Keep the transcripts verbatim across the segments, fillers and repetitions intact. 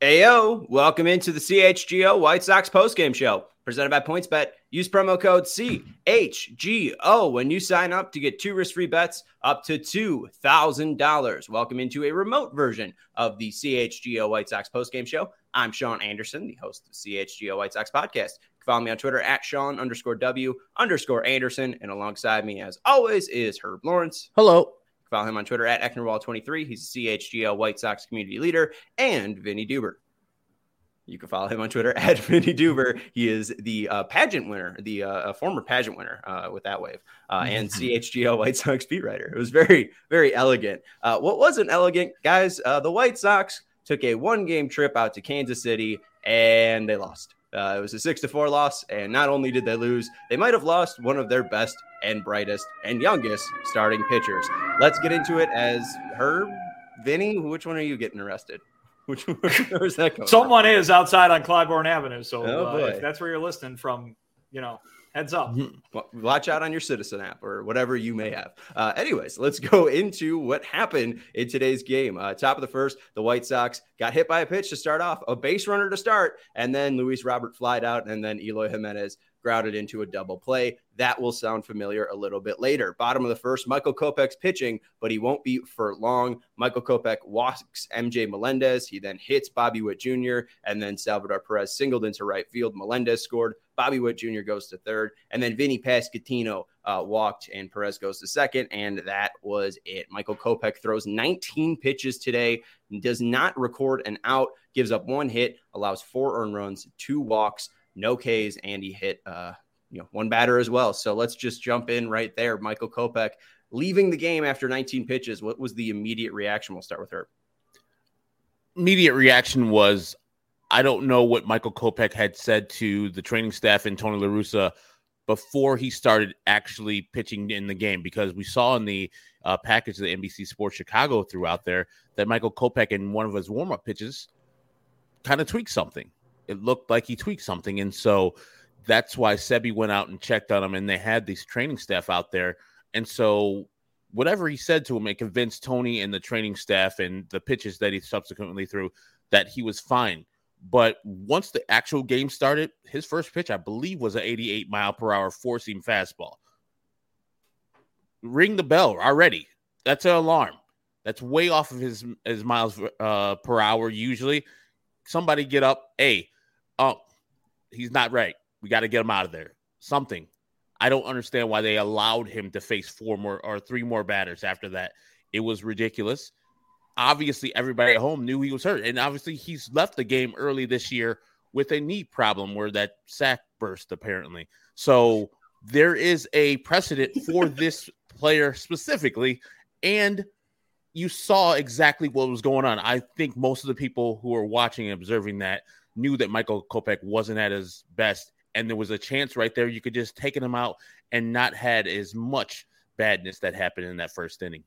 Ayo, welcome into the C H G O White Sox postgame show presented by PointsBet. Use promo code C H G O when you sign up to get two risk-free bets up to two thousand dollars. Welcome into a remote version of the C H G O White Sox postgame show. I'm Sean Anderson, the host of the C H G O White Sox podcast. You can follow me on Twitter at Sean underscore W underscore Anderson. And alongside me, as always, is Herb Lawrence. Hello. Follow him on Twitter at Ecknerwall twenty-three. He's a C H G O White Sox community leader, and Vinny Duber. You can follow him on Twitter at Vinny Duber. He is the uh, pageant winner, the uh, former pageant winner uh, with that wave, uh, and C H G O White Sox beat writer. It was very, very elegant. Uh, what wasn't elegant, guys, uh, the White Sox took a one-game trip out to Kansas City, and they lost. Uh, it was a six to four loss, and not only did they lose, they might have lost one of their best and brightest and youngest starting pitchers. Let's get into it as Herb, Vinny, which one are you getting arrested? Which where's that going? Someone from? Is outside on Clybourne Avenue, so oh, uh, if that's where you're listening from, you know, heads up. Watch out on your Citizen app or whatever you may have. Uh, anyways, let's go into what happened in today's game. Uh, top of the first, the White Sox got hit by a pitch to start off, a base runner to start, and then Luis Robert flied out, and then Eloy Jimenez grounded into a double play. That will sound familiar a little bit later. Bottom of the first, Michael Kopech's pitching, but he won't be for long. Michael Kopech walks M J Melendez. He then hits Bobby Witt Junior, and then Salvador Perez singled into right field. Melendez scored. Bobby Witt Junior goes to third, and then Vinny Pasquantino uh, walked, and Perez goes to second, and that was it. Michael Kopech throws nineteen pitches today, does not record an out, gives up one hit, allows four earned runs, two walks, no Ks, and he hit uh, you know, one batter as well. So let's just jump in right there. Michael Kopech leaving the game after nineteen pitches. What was the immediate reaction? We'll start with her. Immediate reaction was, I don't know what Michael Kopech had said to the training staff and Tony La Russa before he started actually pitching in the game, because we saw in the uh, package that N B C Sports Chicago threw out there that Michael Kopech in one of his warm-up pitches kind of tweaked something. It looked like he tweaked something. And so that's why Sebi went out and checked on him, and they had these training staff out there. And so whatever he said to him, it convinced Tony and the training staff and the pitches that he subsequently threw that he was fine. But once the actual game started, his first pitch, I believe, was an eighty-eight mile per hour four-seam fastball. Ring the bell already. That's an alarm. That's way off of his, his miles uh, per hour usually. Somebody get up. Hey, oh, he's not right. We got to get him out of there. Something. I don't understand why they allowed him to face four more or three more batters after that. It was ridiculous. Obviously, everybody at home knew he was hurt. And obviously, he's left the game early this year with a knee problem where that sac burst, apparently. So there is a precedent for this player specifically. And you saw exactly what was going on. I think most of the people who were watching and observing that knew that Michael Kopech wasn't at his best, and there was a chance right there you could just taken him out and not had as much badness that happened in that first inning.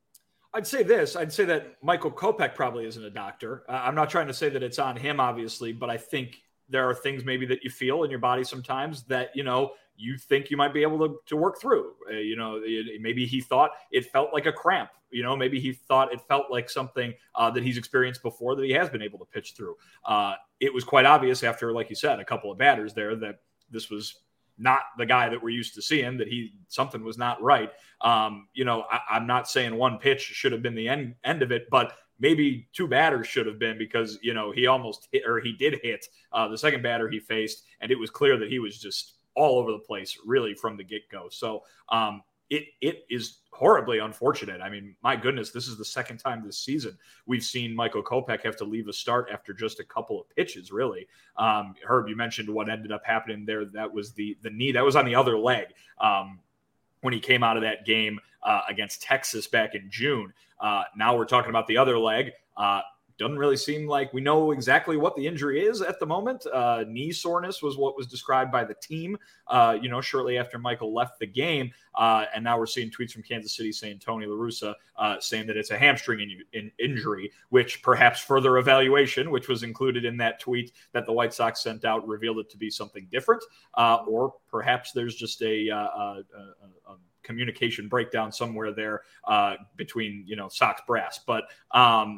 I'd say this. I'd say that Michael Kopech probably isn't a doctor. Uh, I'm not trying to say that it's on him, obviously, but I think there are things maybe that you feel in your body sometimes that, you know, you think you might be able to, to work through. Uh, you know, it, maybe he thought it felt like a cramp. You know, maybe he thought it felt like something uh, that he's experienced before that he has been able to pitch through. Uh, it was quite obvious after, like you said, a couple of batters there that this was not the guy that we're used to seeing, that he something was not right. Um, you know, I, I'm not saying one pitch should have been the end, end of it, but maybe two batters should have been, because, you know, he almost hit, or he did hit uh, the second batter he faced, and it was clear that he was just all over the place really from the get-go. So um, it it is horribly unfortunate. I mean, my goodness, this is the second time this season we've seen Michael Kopech have to leave a start after just a couple of pitches, really. Um, Herb, you mentioned what ended up happening there. That was the the knee. That was on the other leg um, when he came out of that game uh, against Texas back in June. Uh, now we're talking about the other leg. Uh, Doesn't really seem like we know exactly what the injury is at the moment. Uh, knee soreness was what was described by the team, uh, you know, shortly after Michael left the game. Uh, and now we're seeing tweets from Kansas City saying Tony La Russa uh, saying that it's a hamstring in, in injury, which perhaps further evaluation, which was included in that tweet that the White Sox sent out, revealed it to be something different. Uh, or perhaps there's just a, uh, a, a, a communication breakdown somewhere there uh, between, you know, Sox brass. But, um,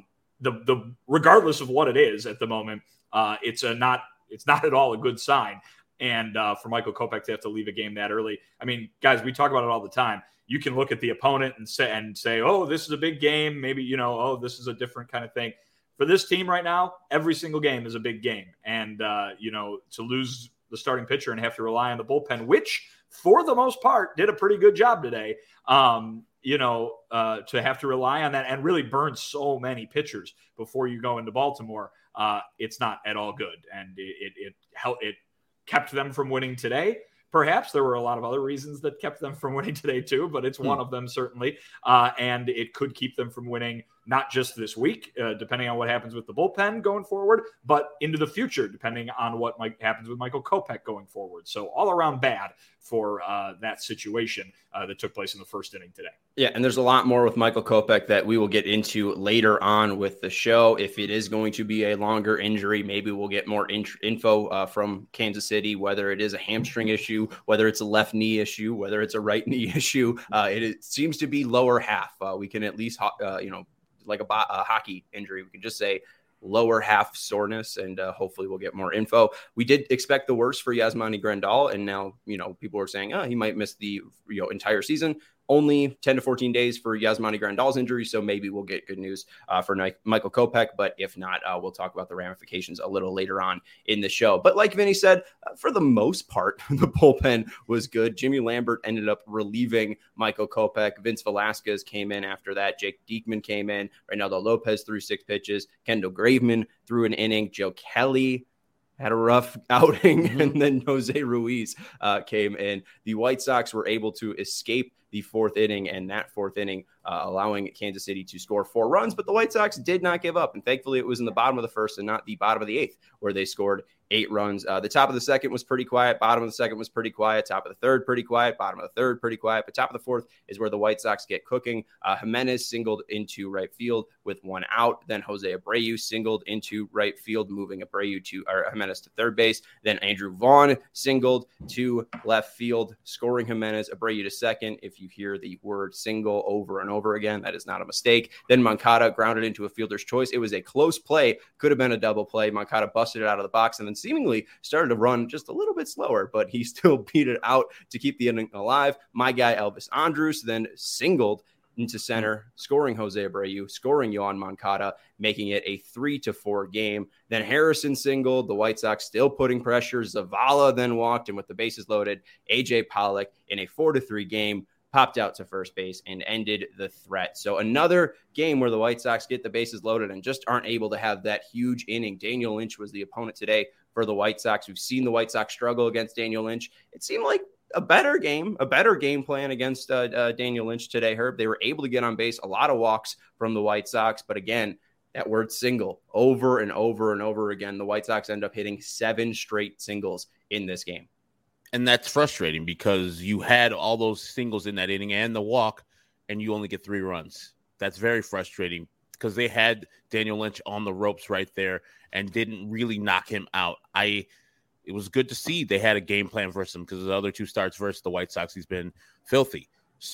the the regardless of what it is at the moment, uh, it's a not it's not at all a good sign. And uh, for Michael Kopech to have to leave a game that early, I mean, guys, we talk about it all the time. You can look at the opponent and say and say, oh, this is a big game. Maybe, you know, oh, this is a different kind of thing. For this team right now, every single game is a big game. And, uh, you know, to lose the starting pitcher and have to rely on the bullpen, which for the most part did a pretty good job today, um, you know, uh, to have to rely on that and really burn so many pitchers before you go into Baltimore, uh, it's not at all good. And it, it, it helped, it kept them from winning today. Perhaps there were a lot of other reasons that kept them from winning today too, but it's hmm. one of them certainly. Uh, and it could keep them from winning not just this week, uh, depending on what happens with the bullpen going forward, but into the future, depending on what might happens with Michael Kopech going forward. So all around bad for uh, that situation uh, that took place in the first inning today. Yeah, and there's a lot more with Michael Kopech that we will get into later on with the show. If it is going to be a longer injury, maybe we'll get more in- info uh, from Kansas City, whether it is a hamstring issue, whether it's a left knee issue, whether it's a right knee issue. Uh, it, it seems to be lower half. Uh, we can at least, uh, you know, like a, bo- a hockey injury, we can just say lower half soreness, and uh, hopefully we'll get more info. We did expect the worst for Yasmani Grandal, and now, you know, people are saying, oh, he might miss the you know entire season. Only ten to fourteen days for Yasmani Grandal's injury, so maybe we'll get good news uh, for Ni- Michael Kopech, but if not, uh, we'll talk about the ramifications a little later on in the show. But like Vinny said, uh, for the most part, the bullpen was good. Jimmy Lambert ended up relieving Michael Kopech. Vince Velasquez came in after that. Jake Diekman came in. Reynaldo Lopez threw six pitches. Kendall Graveman threw an inning. Joe Kelly had a rough outing, mm-hmm. and then Jose Ruiz uh, came in. The White Sox were able to escape the fourth inning, and that fourth inning uh, allowing Kansas City to score four runs, but the White Sox did not give up, and thankfully it was in the bottom of the first and not the bottom of the eighth where they scored eight runs. Uh, the top of the second was pretty quiet, bottom of the second was pretty quiet, top of the third pretty quiet, bottom of the third pretty quiet, but top of the fourth is where the White Sox get cooking. Uh, Jimenez singled into right field with one out, then Jose Abreu singled into right field, moving Abreu to or Jimenez to third base, then Andrew Vaughn singled to left field, scoring Jimenez, Abreu to second. If you hear the word single over and over again, that is not a mistake. Then Moncada grounded into a fielder's choice. It was a close play, could have been a double play. Moncada busted it out of the box and then seemingly started to run just a little bit slower, but he still beat it out to keep the inning alive. My guy Elvis Andrus then singled into center, scoring Jose Abreu, scoring Yohan Moncada, making it a three to four game. Then Harrison singled, the White Sox still putting pressure. Zavala then walked, and with the bases loaded, A J Pollock in a four to three game popped out to first base and ended the threat. So another game where the White Sox get the bases loaded and just aren't able to have that huge inning. Daniel Lynch was the opponent today for the White Sox. We've seen the White Sox struggle against Daniel Lynch. It seemed like a better game, a better game plan against uh, uh, Daniel Lynch today, Herb. They were able to get on base, a lot of walks from the White Sox. But again, that word single over and over and over again, the White Sox end up hitting seven straight singles in this game. And that's frustrating because you had all those singles in that inning and the walk, and you only get three runs. That's very frustrating because they had Daniel Lynch on the ropes right there and didn't really knock him out. I It was good to see they had a game plan versus him because the other two starts versus the White Sox, he's been filthy.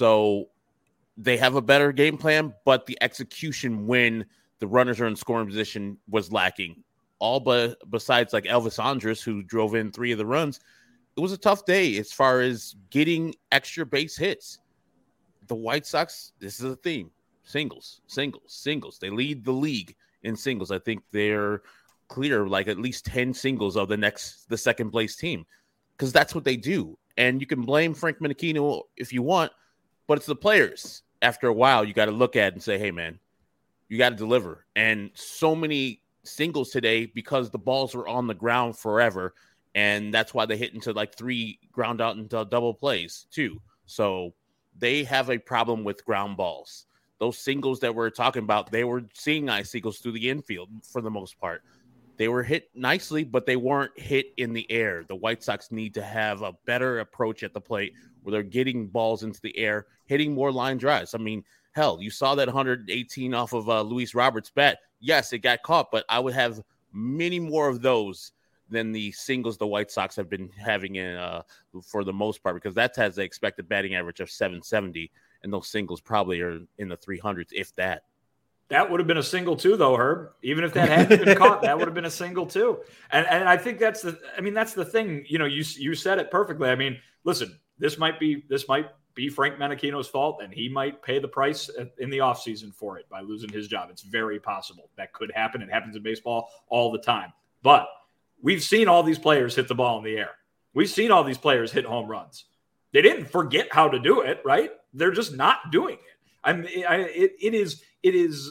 So they have a better game plan, but the execution when the runners are in scoring position was lacking. All but besides like Elvis Andrus, who drove in three of the runs. It was a tough day as far as getting extra base hits. The White Sox, this is a theme. Singles, singles, singles. They lead the league in singles. I think they're clear like at least ten singles of the next, the second place team, because that's what they do. And you can blame Frank Menechino if you want, but it's the players. After a while, you got to look at it and say, hey, man, you got to deliver. And so many singles today because the balls were on the ground forever. And that's why they hit into like three ground out into double plays too. So they have a problem with ground balls. Those singles that we're talking about, they were seeing eye singles through the infield for the most part. They were hit nicely, but they weren't hit in the air. The White Sox need to have a better approach at the plate where they're getting balls into the air, hitting more line drives. I mean, hell, you saw that one hundred eighteen off of uh, Luis Roberts' bat. Yes, it got caught, but I would have many more of those than the singles the White Sox have been having in uh, for the most part, because that has the expected batting average of seven seventy, and those singles probably are in the three hundreds, if that. That would have been a single too, though, Herb. Even if that hadn't been caught, that would have been a single too. And and I think that's the. I mean, that's the thing. You know, you you said it perfectly. I mean, listen, this might be this might be Frank Menachino's fault, and he might pay the price in the offseason for it by losing his job. It's very possible that could happen. It happens in baseball all the time. But we've seen all these players hit the ball in the air. We've seen all these players hit home runs. They didn't forget how to do it, right? They're just not doing it. I mean, I, it, it is. It is.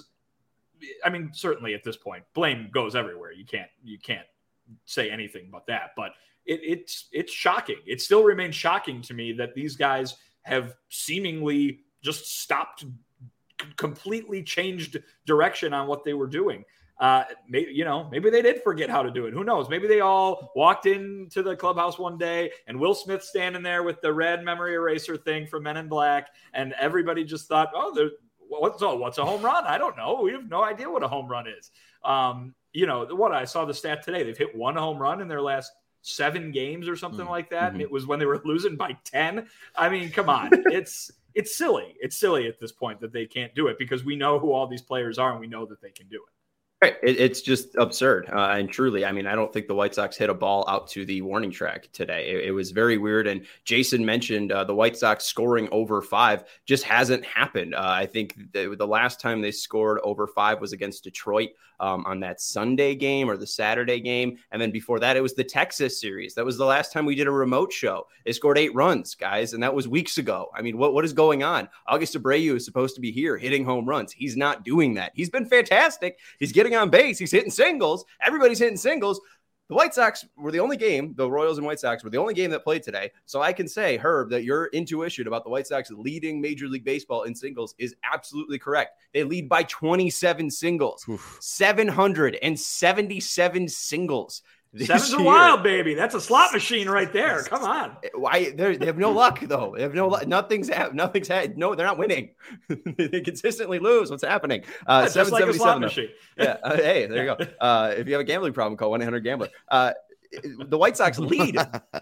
I mean, certainly at this point, blame goes everywhere. You can't. You can't say anything but that. But it, it's it's shocking. It still remains shocking to me that these guys have seemingly just stopped, completely changed direction on what they were doing. Uh, maybe, you know, maybe they did forget how to do it. Who knows? Maybe they all walked into the clubhouse one day and Will Smith standing there with the red memory eraser thing from Men in Black. And everybody just thought, oh, there's what's, oh, what's a home run? I don't know. We have no idea what a home run is. Um, you know, what I saw the stat today, they've hit one home run in their last seven games or something mm-hmm. like that. Mm-hmm. And it was when they were losing by ten. I mean, come on. it's, it's silly. It's silly at this point that they can't do it because we know who all these players are and we know that they can do it. Right. It, it's just absurd. Uh, and truly, I mean, I don't think the White Sox hit a ball out to the warning track today. It, it was very weird. And Jason mentioned uh, the White Sox scoring over five just hasn't happened. Uh, I think the, the last time they scored over five was against Detroit um, on that Sunday game or the Saturday game. And then before that, it was the Texas series. That was the last time we did a remote show. They scored eight runs, guys. And that was weeks ago. I mean, what, what is going on? August Abreu is supposed to be here hitting home runs. He's not doing that. He's been fantastic. He's getting on base. He's hitting singles. Everybody's hitting singles. The White Sox were the only game, the Royals and White Sox were the only game that played today. So I can say, Herb, that your intuition about the White Sox leading Major League Baseball in singles is absolutely correct. They lead by twenty-seven singles, Oof. seven hundred seventy-seven singles. Seven's a wild, baby. That's a slot machine right there. Come on. Why they have no luck though. They have no luck. Nothing's ha- nothing's had. No, they're not winning. They consistently lose. What's happening? Uh, yeah, just like a slot machine. Yeah. Uh, hey, there you go. Uh, if you have a gambling problem, call one eight hundred gambler. Uh, the White Sox lead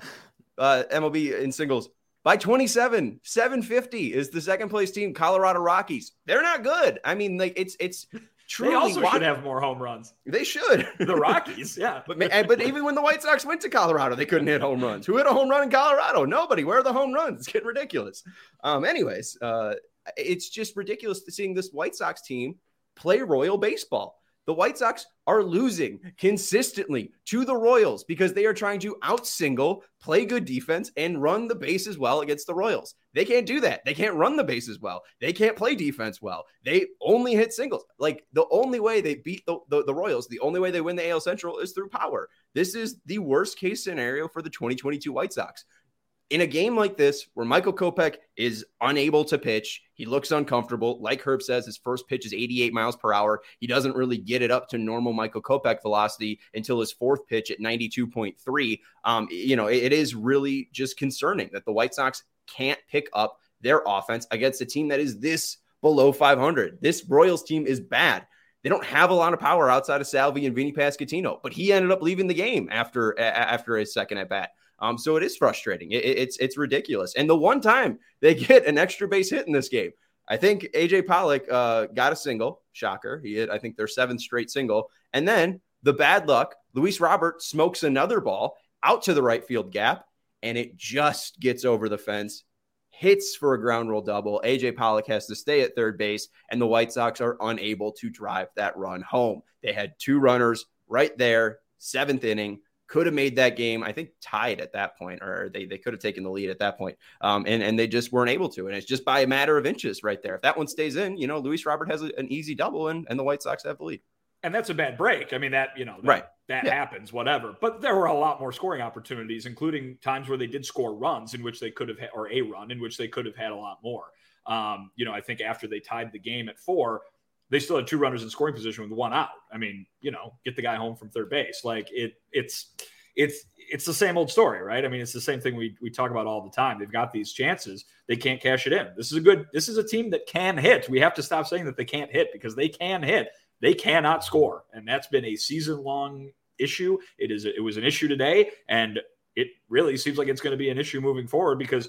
uh, M L B in singles by twenty-seven. seven fifty is the second place team, Colorado Rockies. They're not good. I mean, like it's it's. Truly, they also why, should have more home runs. They should. The Rockies, yeah. but but even when the White Sox went to Colorado, they couldn't hit home runs. Who hit a home run in Colorado? Nobody. Where are the home runs? It's getting ridiculous. Um. Anyways, uh, it's just ridiculous to seeing this White Sox team play Royal baseball. The White Sox are losing consistently to the Royals because they are trying to out-single, play good defense, and run the bases well against the Royals. They can't do that. They can't run the bases well. They can't play defense well. They only hit singles. Like, the only way they beat the, the, the Royals, the only way they win the A L Central is through power. This is the worst-case scenario for the twenty twenty-two White Sox. In a game like this, where Michael Kopech is unable to pitch, he looks uncomfortable. Like Herb says, his first pitch is eighty-eight miles per hour. He doesn't really get it up to normal Michael Kopech velocity until his fourth pitch at ninety-two point three. Um, you know, it, it is really just concerning that the White Sox can't pick up their offense against a team that is this below five hundred. This Royals team is bad. They don't have a lot of power outside of Salvi and Vinny Pasquantino, but he ended up leaving the game after, a, after his second at bat. Um, so it is frustrating. It, it's it's ridiculous. And the one time they get an extra base hit in this game, I think A J Pollock uh, got a single. Shocker. He hit, I think, their seventh straight single. And then the bad luck, Luis Robert smokes another ball out to the right field gap, and it just gets over the fence, hits for a ground rule double. A J Pollock has to stay at third base, and the White Sox are unable to drive that run home. They had two runners right there, seventh inning. Could have made that game, I think, tied at that point, or they, they could have taken the lead at that point. Um, and, and they just weren't able to. And it's just by a matter of inches right there. If that one stays in, you know, Luis Robert has a, an easy double and, and the White Sox have the lead. And that's a bad break. I mean, that, you know, that, right. that yeah. happens, whatever. But there were a lot more scoring opportunities, including times where they did score runs in which they could have had, or a run in which they could have had a lot more. Um, you know, I think after they tied the game at four, they still had two runners in scoring position with one out. I mean, you know, get the guy home from third base. Like it, it's, it's, it's the same old story, right? I mean, it's the same thing we we talk about all the time. They've got these chances. They can't cash it in. This is a good, this is a team that can hit. We have to stop saying that they can't hit because they can hit. They cannot score. And that's been a season long issue. It is, it was an issue today. And it really seems like it's going to be an issue moving forward because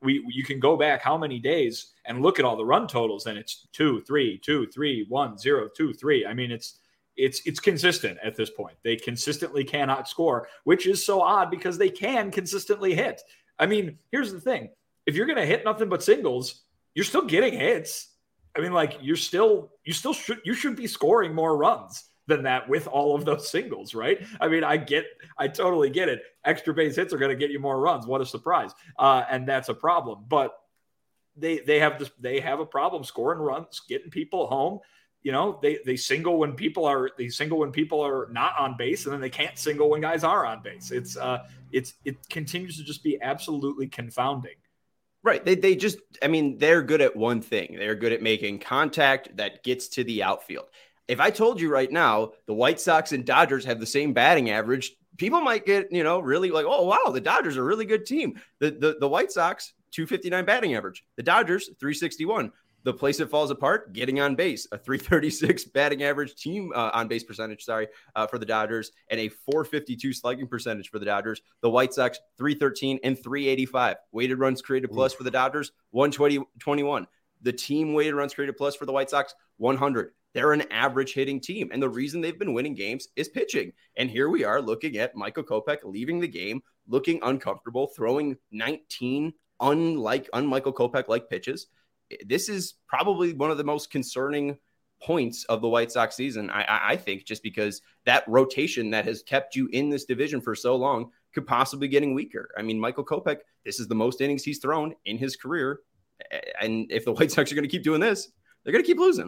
we you can go back how many days and look at all the run totals, and it's two, three, two, three, one, zero, two, three. I mean, it's it's it's consistent at this point. They consistently cannot score, which is so odd because they can consistently hit. I mean, here's the thing: if you're going to hit nothing but singles, you're still getting hits. I mean, like you're still you still should you should be scoring more runs than that with all of those singles, right? I mean, I get, I totally get it. Extra base hits are going to get you more runs. What a surprise. Uh, and that's a problem. But they they have this, they have a problem scoring runs, getting people home. You know, they they single when people are they single when people are not on base, and then they can't single when guys are on base. It's uh it's it continues to just be absolutely confounding. Right. They they just, I mean, they're good at one thing. They're good at making contact that gets to the outfield. If I told you right now, the White Sox and Dodgers have the same batting average, people might get, you know, really like, oh, wow, the Dodgers are a really good team. The the, the White Sox, two fifty-nine batting average. The Dodgers, three sixty-one. The place it falls apart, getting on base, a three thirty-six batting average team uh, on base percentage, sorry, uh, for the Dodgers, and a four fifty-two slugging percentage for the Dodgers. The White Sox, three thirteen and three eighty-five. Weighted runs created plus Ooh. For the Dodgers, one twenty-one. The team weighted runs created plus for the White Sox, one hundred. They're an average hitting team. And the reason they've been winning games is pitching. And here we are looking at Michael Kopech leaving the game, looking uncomfortable, throwing nineteen unlike, un-Michael Kopech-like pitches. This is probably one of the most concerning points of the White Sox season, I, I think, just because that rotation that has kept you in this division for so long could possibly getting weaker. I mean, Michael Kopech, this is the most innings he's thrown in his career. And if the White Sox are going to keep doing this, they're going to keep losing.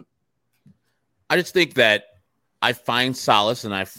I just think that I find solace and I've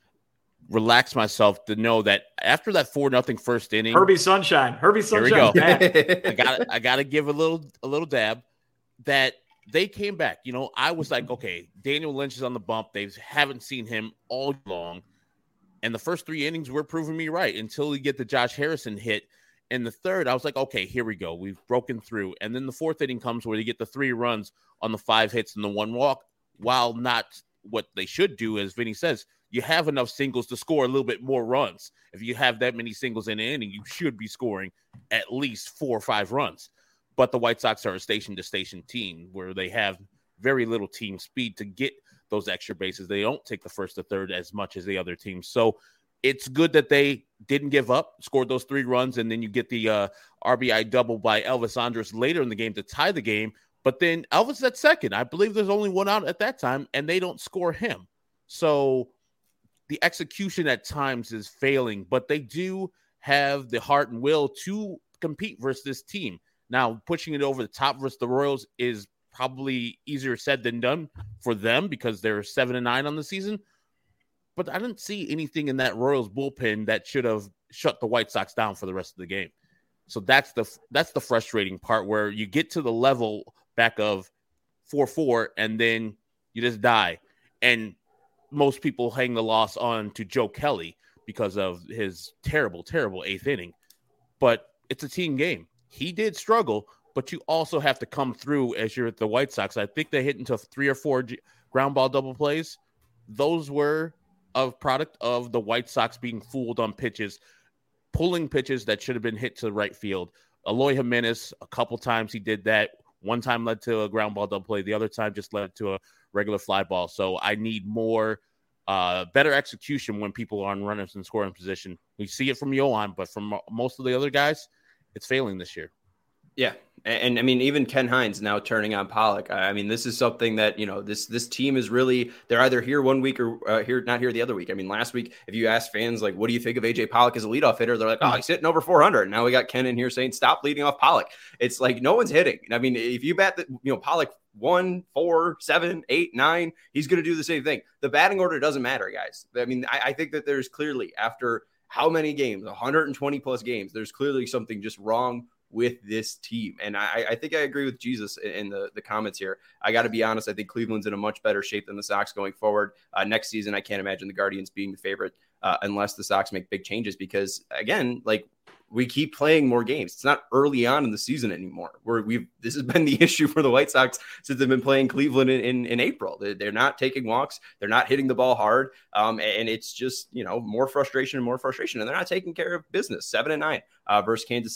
relaxed myself to know that after that four nothing first inning, Herbie Sunshine, Herbie Sunshine. Here we go. I got I got to give a little a little dab that they came back. You know, I was like, okay, Daniel Lynch is on the bump. They haven't seen him all long, and the first three innings were proving me right until we get the Josh Harrison hit. In the third, I was like, okay, here we go. We've broken through, and then the fourth inning comes where they get the three runs on the five hits and the one walk. While not what they should do, as Vinny says, you have enough singles to score a little bit more runs. If you have that many singles in an inning, you should be scoring at least four or five runs. But the White Sox are a station-to-station team where they have very little team speed to get those extra bases. They don't take the first to third as much as the other teams. So it's good that they didn't give up, scored those three runs, and then you get the uh, R B I double by Elvis Andrus later in the game to tie the game. But then Elvis at second. I believe there's only one out at that time, and they don't score him. So the execution at times is failing, but they do have the heart and will to compete versus this team. Now, pushing it over the top versus the Royals is probably easier said than done for them because they're seven and nine on the season. But I didn't see anything in that Royals bullpen that should have shut the White Sox down for the rest of the game. So that's the that's the frustrating part where you get to the level back of four four, and then you just die. And most people hang the loss on to Joe Kelly because of his terrible, terrible eighth inning. But it's a team game. He did struggle, but you also have to come through as you're at the White Sox. I think they hit into three or four g- ground ball double plays. Those were a product of the White Sox being fooled on pitches, pulling pitches that should have been hit to the right field. Eloy Jimenez, a couple times he did that. One time led to a ground ball double play. The other time just led to a regular fly ball. So I need more, uh, better execution when people are on runners in scoring position. We see it from Yohan, but from most of the other guys, it's failing this year. Yeah. And, and I mean, even Ken Hines now turning on Pollock. I mean, this is something that, you know, this this team is really, they're either here one week or uh, here, not here the other week. I mean, last week, if you ask fans, like, what do you think of A J Pollock as a leadoff hitter? They're like, oh, he's hitting over four hundred. Now we got Ken in here saying, stop leading off Pollock. It's like, no one's hitting. I mean, if you bat, the, you know, Pollock one, four, seven, eight, nine, he's going to do the same thing. The batting order doesn't matter, guys. I mean, I, I think that there's clearly, after how many games, one hundred twenty plus games, there's clearly something just wrong with this team. And I, I think I agree with Jesus in the, the comments here. I got to be honest. I think Cleveland's in a much better shape than the Sox going forward. Uh, next season, I can't imagine the Guardians being the favorite uh, unless the Sox make big changes because, again, like, we keep playing more games. It's not early on in the season anymore. Where we've this has been the issue for the White Sox since they've been playing Cleveland in, in, in April. They're, they're not taking walks. They're not hitting the ball hard. Um, and it's just, you know, more frustration and more frustration. And they're not taking care of business. Seven and nine uh, versus Kansas City.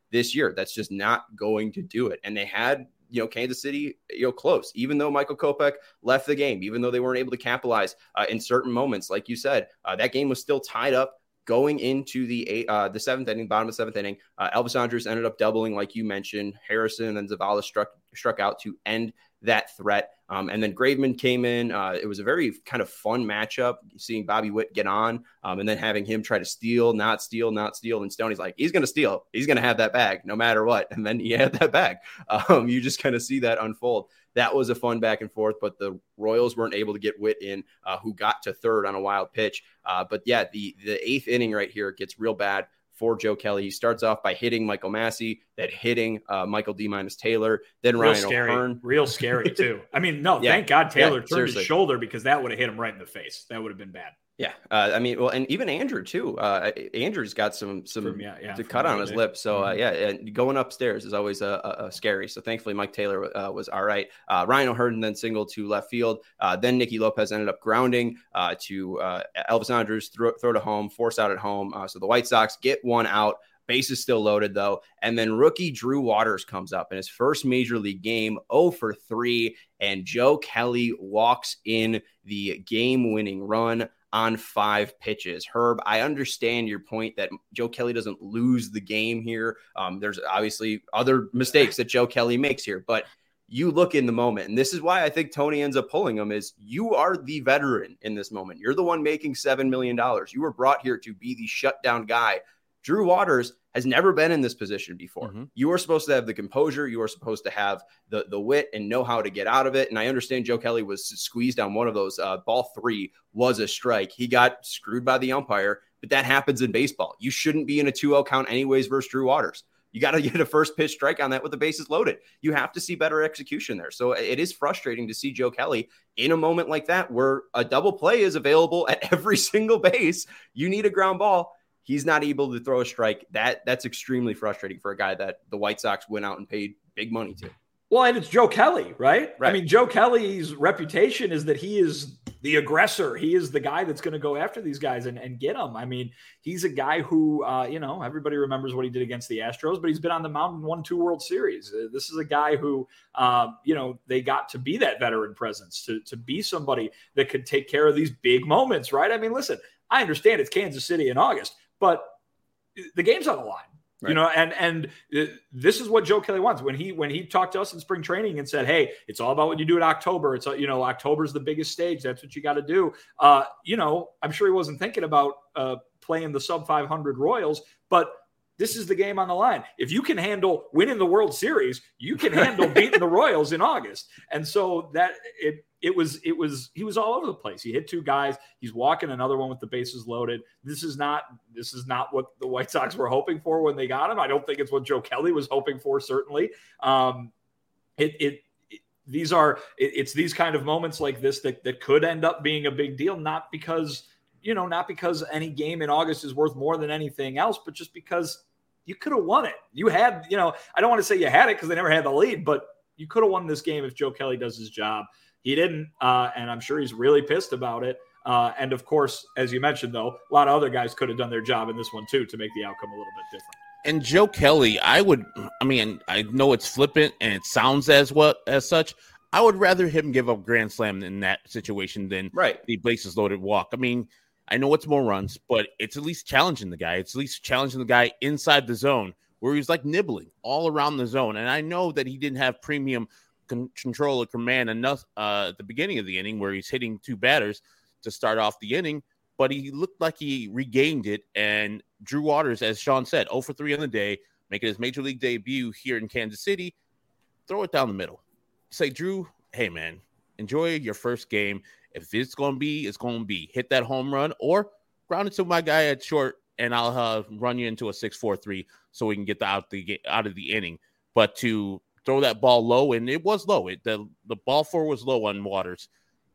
this year. That's just not going to do it. And they had, you know, Kansas City, you know, close, even though Michael Kopech left the game, even though they weren't able to capitalize uh, in certain moments. Like you said, uh, that game was still tied up going into the eight, uh, the seventh inning, bottom of the seventh inning. Uh, Elvis Andrus ended up doubling, like you mentioned. Harrison and then Zavala struck struck out to end that threat. Um, and then Graveman came in. Uh, it was a very kind of fun matchup, seeing Bobby Witt get on um, and then having him try to steal, not steal, not steal. And Stoney's like, he's going to steal. He's going to have that bag no matter what. And then he had that bag. Um, you just kind of see that unfold. That was a fun back and forth, but the Royals weren't able to get Witt in, uh, who got to third on a wild pitch. Uh, but yeah, the, the eighth inning right here gets real bad for Joe Kelly. He starts off by hitting Michael Massey, then hitting uh, Michael D minus Taylor, then real Ryan scary, O'Hearn. Real scary too. I mean, no, yeah. thank God Taylor yeah, turned seriously. his shoulder, because that would have hit him right in the face. That would have been bad. Yeah, uh, I mean, well, and even Andrew too. Uh, Andrew's got some some From, yeah, yeah, to cut on his lip. So uh, yeah, and going upstairs is always a, a, a scary. So thankfully, Mike Taylor uh, was all right. Uh, Ryan O'Hearn then singled to left field. Uh, then Nicky Lopez ended up grounding uh, to uh, Elvis Andrus, throw, throw to home, force out at home. Uh, so the White Sox get one out. Base is still loaded, though. And then rookie Drew Waters comes up in his first major league game, oh for three, and Joe Kelly walks in the game-winning run on five pitches. Herb, I understand your point that Joe Kelly doesn't lose the game here. Um, there's obviously other mistakes that Joe Kelly makes here, but you look in the moment, and this is why I think Tony ends up pulling him, is you are the veteran in this moment. You're the one making seven million dollars. You were brought here to be the shutdown guy. Drew Waters has never been in this position before. Mm-hmm. You are supposed to have the composure. You are supposed to have the, the wit and know how to get out of it. And I understand Joe Kelly was squeezed on one of those. Uh, ball three was a strike. He got screwed by the umpire, but that happens in baseball. You shouldn't be in a two oh count anyways versus Drew Waters. You got to get a first pitch strike on that with the bases loaded. You have to see better execution there. So it is frustrating to see Joe Kelly in a moment like that where a double play is available at every single base. You need a ground ball. He's not able to throw a strike. That that's extremely frustrating for a guy that the White Sox went out and paid big money to. Well, and it's Joe Kelly, right? right? I mean, Joe Kelly's reputation is that he is the aggressor. He is the guy that's going to go after these guys and, and get them. I mean, he's a guy who, uh, you know, everybody remembers what he did against the Astros, but he's been on the mound and won two World Series. Uh, this is a guy who, uh, you know, they got to be that veteran presence, to, to be somebody that could take care of these big moments, right? I mean, listen, I understand it's Kansas City in August, but the game's on the line. Right. You know, and and this is what Joe Kelly wants. When he when he talked to us in spring training and said, "Hey, it's all about what you do in October. It's you know, October's the biggest stage. That's what you got to do." Uh, you know, I'm sure he wasn't thinking about uh, playing the sub five hundred Royals, but this is the game on the line. If you can handle winning the World Series, you can handle beating the Royals in August. And so that it it was it was he was all over the place. He hit two guys. He's walking another one with the bases loaded. This is not this is not what the White Sox were hoping for when they got him. I don't think it's what Joe Kelly was hoping for. Certainly, um, it, it it these are it, it's these kind of moments like this that that could end up being a big deal. Not because you know not because any game in August is worth more than anything else, but just because you could have won it. You had you know I don't want to say you had it because they never had the lead, but you could have won this game if Joe Kelly does his job. He didn't, uh, and I'm sure he's really pissed about it. Uh, and, of course, as you mentioned, though, a lot of other guys could have done their job in this one, too, to make the outcome a little bit different. And Joe Kelly, I would – I mean, I know it's flippant and it sounds as what as such. I would rather him give up grand slam in that situation than right. the bases loaded walk. I mean, I know it's more runs, but it's at least challenging the guy. It's at least challenging the guy inside the zone where he's, like, nibbling all around the zone. And I know that he didn't have premium – control or command enough uh, at the beginning of the inning where he's hitting two batters to start off the inning, but he looked like he regained it. And Drew Waters, as Sean said, oh for three on the day, making his major league debut here in Kansas City. Throw it down the middle. Say, Drew, hey, man, enjoy your first game. If it's going to be, it's going to be. Hit that home run or ground it to my guy at short, and I'll uh, run you into a six four three so we can get the, out, the, out of the inning. But to throw that ball low, and it was low. It, the, the ball four was low on Waters.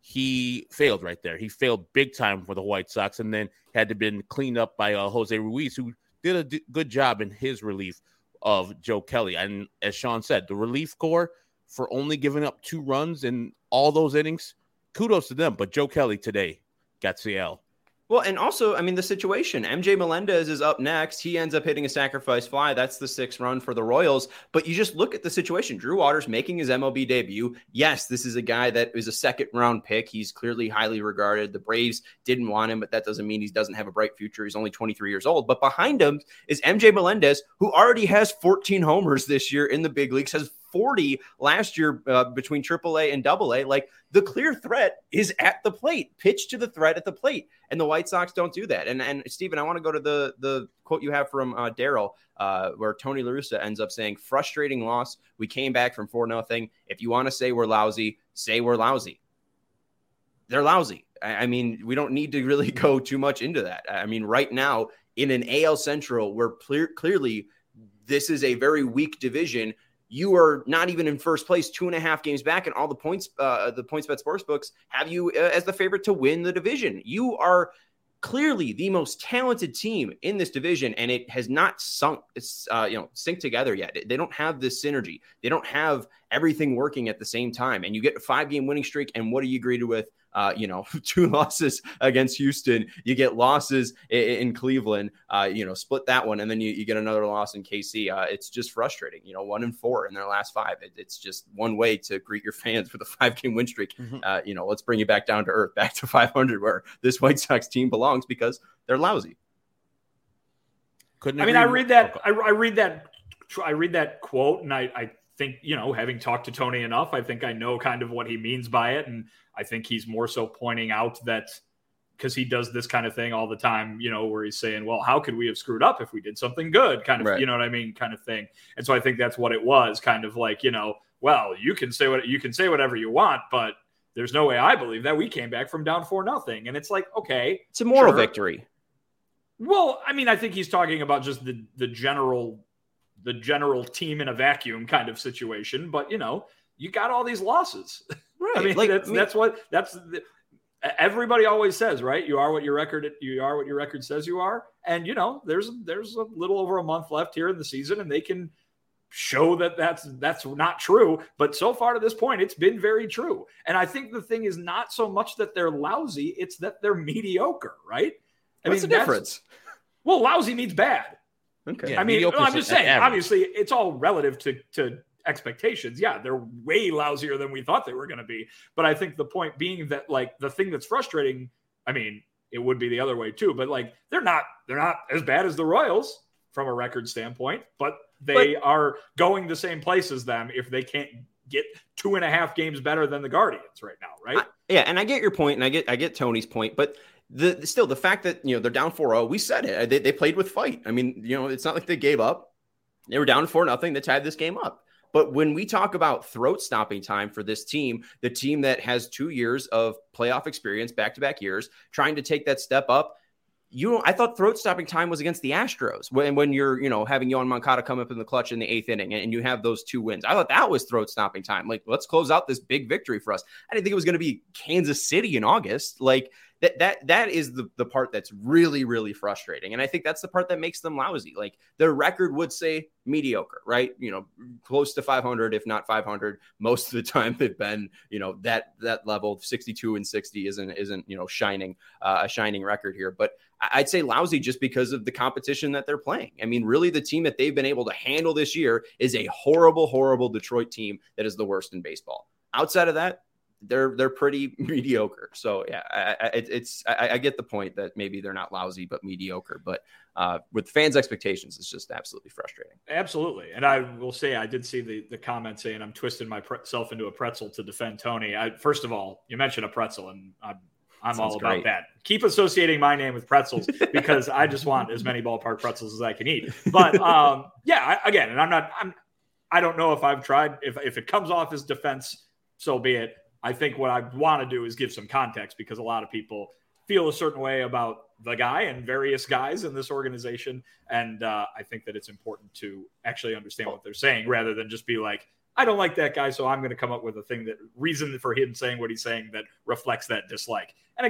He failed right there. He failed big time for the White Sox, and then had to been cleaned up by uh, Jose Ruiz, who did a d- good job in his relief of Joe Kelly. And as Sean said, the relief corps for only giving up two runs in all those innings, kudos to them. But Joe Kelly today got C L. Well, and also, I mean, the situation, M J Melendez is up next. He ends up hitting a sacrifice fly. That's the sixth run for the Royals. But you just look at the situation. Drew Waters making his M L B debut. Yes, this is a guy that is a second round pick. He's clearly highly regarded. The Braves didn't want him, but that doesn't mean he doesn't have a bright future. He's only twenty-three years old. But behind him is M J Melendez, who already has fourteen homers this year in the big leagues, has forty last year uh, between triple A and double A. Like, the clear threat is at the plate. Pitch to the threat at the plate. And the White Sox don't do that. And, and Steven, I want to go to the, the quote you have from uh, Daryl, uh, where Tony La Russa ends up saying, frustrating loss. We came back from four nothing. If you want to say we're lousy, say we're lousy. They're lousy. I, I mean, we don't need to really go too much into that. I mean, right now in an A L Central where clear, clearly this is a very weak division, you are not even in first place, two and a half games back, and all the points, uh, the PointsBet Sportsbooks have you uh, as the favorite to win the division. You are clearly the most talented team in this division, and it has not sunk, uh, you know, synced together yet. They don't have this synergy. They don't have everything working at the same time. And you get a five-game winning streak, and what are you greeted with? Uh, you know, two losses against Houston. You get losses in, in Cleveland, uh, you know, split that one. And then you, you get another loss in K C. Uh, it's just frustrating, you know, one and four in their last five. It, it's just one way to greet your fans with a five game win streak. Mm-hmm. Uh, you know, let's bring you back down to earth, back to five hundred where this White Sox team belongs because they're lousy. Couldn't I mean, I read that, I, I read that, I read that quote and I, I think, you know, having talked to Tony enough, I think I know kind of what he means by it. And I think he's more so pointing out that because he does this kind of thing all the time, you know, where he's saying, well, how could we have screwed up if we did something good kind of, right. You know what I mean? Kind of thing. And so I think that's what it was kind of like, you know, well, you can say what you can say, whatever you want, but there's no way I believe that we came back from down four nothing. And it's like, okay, it's a moral sure. victory. Well, I mean, I think he's talking about just the, the general, the general team in a vacuum kind of situation, but you know, you got all these losses. Right. I mean, like, that's, I mean, that's what that's the, everybody always says, right? You are what your record, you are what your record says you are. And, you know, there's, there's a little over a month left here in the season and they can show that that's, that's not true. But so far to this point, it's been very true. And I think the thing is not so much that they're lousy. It's that they're mediocre, right? I What's mean, the difference? Well, lousy means bad. Okay. Yeah, I mean, I'm just saying, average. Obviously it's all relative to, to, expectations. Yeah, they're way lousier than we thought they were going to be. But I think the point being that like the thing that's frustrating, I mean, it would be the other way too, but like they're not they're not as bad as the Royals from a record standpoint, but they but, are going the same place as them if they can't get two and a half games better than the Guardians right now, right? I, yeah, and I get your point, and I get I get Tony's point, but the still the fact that you know they're down four oh, we said it. They, they played with fight. I mean, you know, it's not like they gave up. They were down four nothing. They tied this game up. But when we talk about throat stopping time for this team, the team that has two years of playoff experience, back-to-back years, trying to take that step up, you know, I thought throat stopping time was against the Astros when, when you're, you know, having Yohan Moncada come up in the clutch in the eighth inning and you have those two wins. I thought that was throat stopping time. Like, let's close out this big victory for us. I didn't think it was going to be Kansas City in August. Like, That that that is the, the part that's really, really frustrating. And I think that's the part that makes them lousy. Like their record would say mediocre, right? You know, close to five hundred, if not five hundred. Most of the time they've been, you know, that that level sixty-two and sixty isn't, isn't you know, shining, uh, a shining record here. But I'd say lousy just because of the competition that they're playing. I mean, really the team that they've been able to handle this year is a horrible, horrible Detroit team that is the worst in baseball. Outside of that, they're they're pretty mediocre. So yeah, I, I, it's I, I get the point that maybe they're not lousy but mediocre. But uh, with fans' expectations, it's just absolutely frustrating. Absolutely, and I will say I did see the the comment saying I'm twisting myself into a pretzel to defend Tony. I, first of all, you mentioned a pretzel, and I'm I'm Sounds all about great. that. Keep associating my name with pretzels because I just want as many ballpark pretzels as I can eat. But um, yeah, I, again, and I'm not I'm I don't know if I've tried if if it comes off as defense, so be it. I think what I want to do is give some context because a lot of people feel a certain way about the guy and various guys in this organization. And uh, I think that it's important to actually understand what they're saying rather than just be like, I don't like that guy, so I'm going to come up with a thing that reason for him saying what he's saying that reflects that dislike. And again,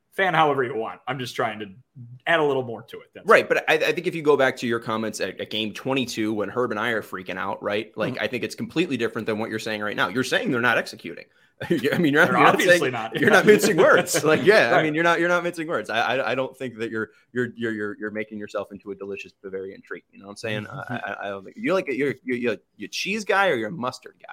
fan however you want. I'm just trying to add a little more to it. That's right. But I, I think if you go back to your comments at, at game twenty-two, when Herb and I are freaking out, right? Like, mm-hmm. I think it's completely different than what you're saying right now. You're saying they're not executing. I mean, you're, you're obviously not, saying, not. You're not mincing words. Like, yeah, right. I mean, you're not. You're not mincing words. I, I, I don't think that you're, you're, you're, you're, you're making yourself into a delicious Bavarian treat. You know what I'm saying? Mm-hmm. I, I don't think you like you're, you're, you're, you're a cheese guy or you're a mustard guy.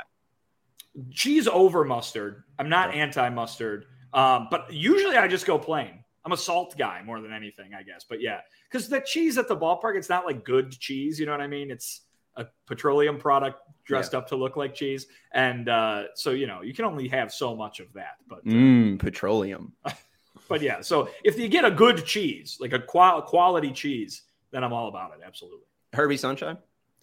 Cheese over mustard. I'm not okay. anti-mustard, um, but usually I just go plain. I'm a salt guy more than anything, I guess. But yeah, because the cheese at the ballpark, it's not like good cheese. You know what I mean? It's a petroleum product dressed yeah. up to look like cheese. And uh, so, you know, you can only have so much of that. But uh, mm, petroleum. But yeah, so if you get a good cheese, like a qual- quality cheese, then I'm all about it. Absolutely. Herbie Sunshine?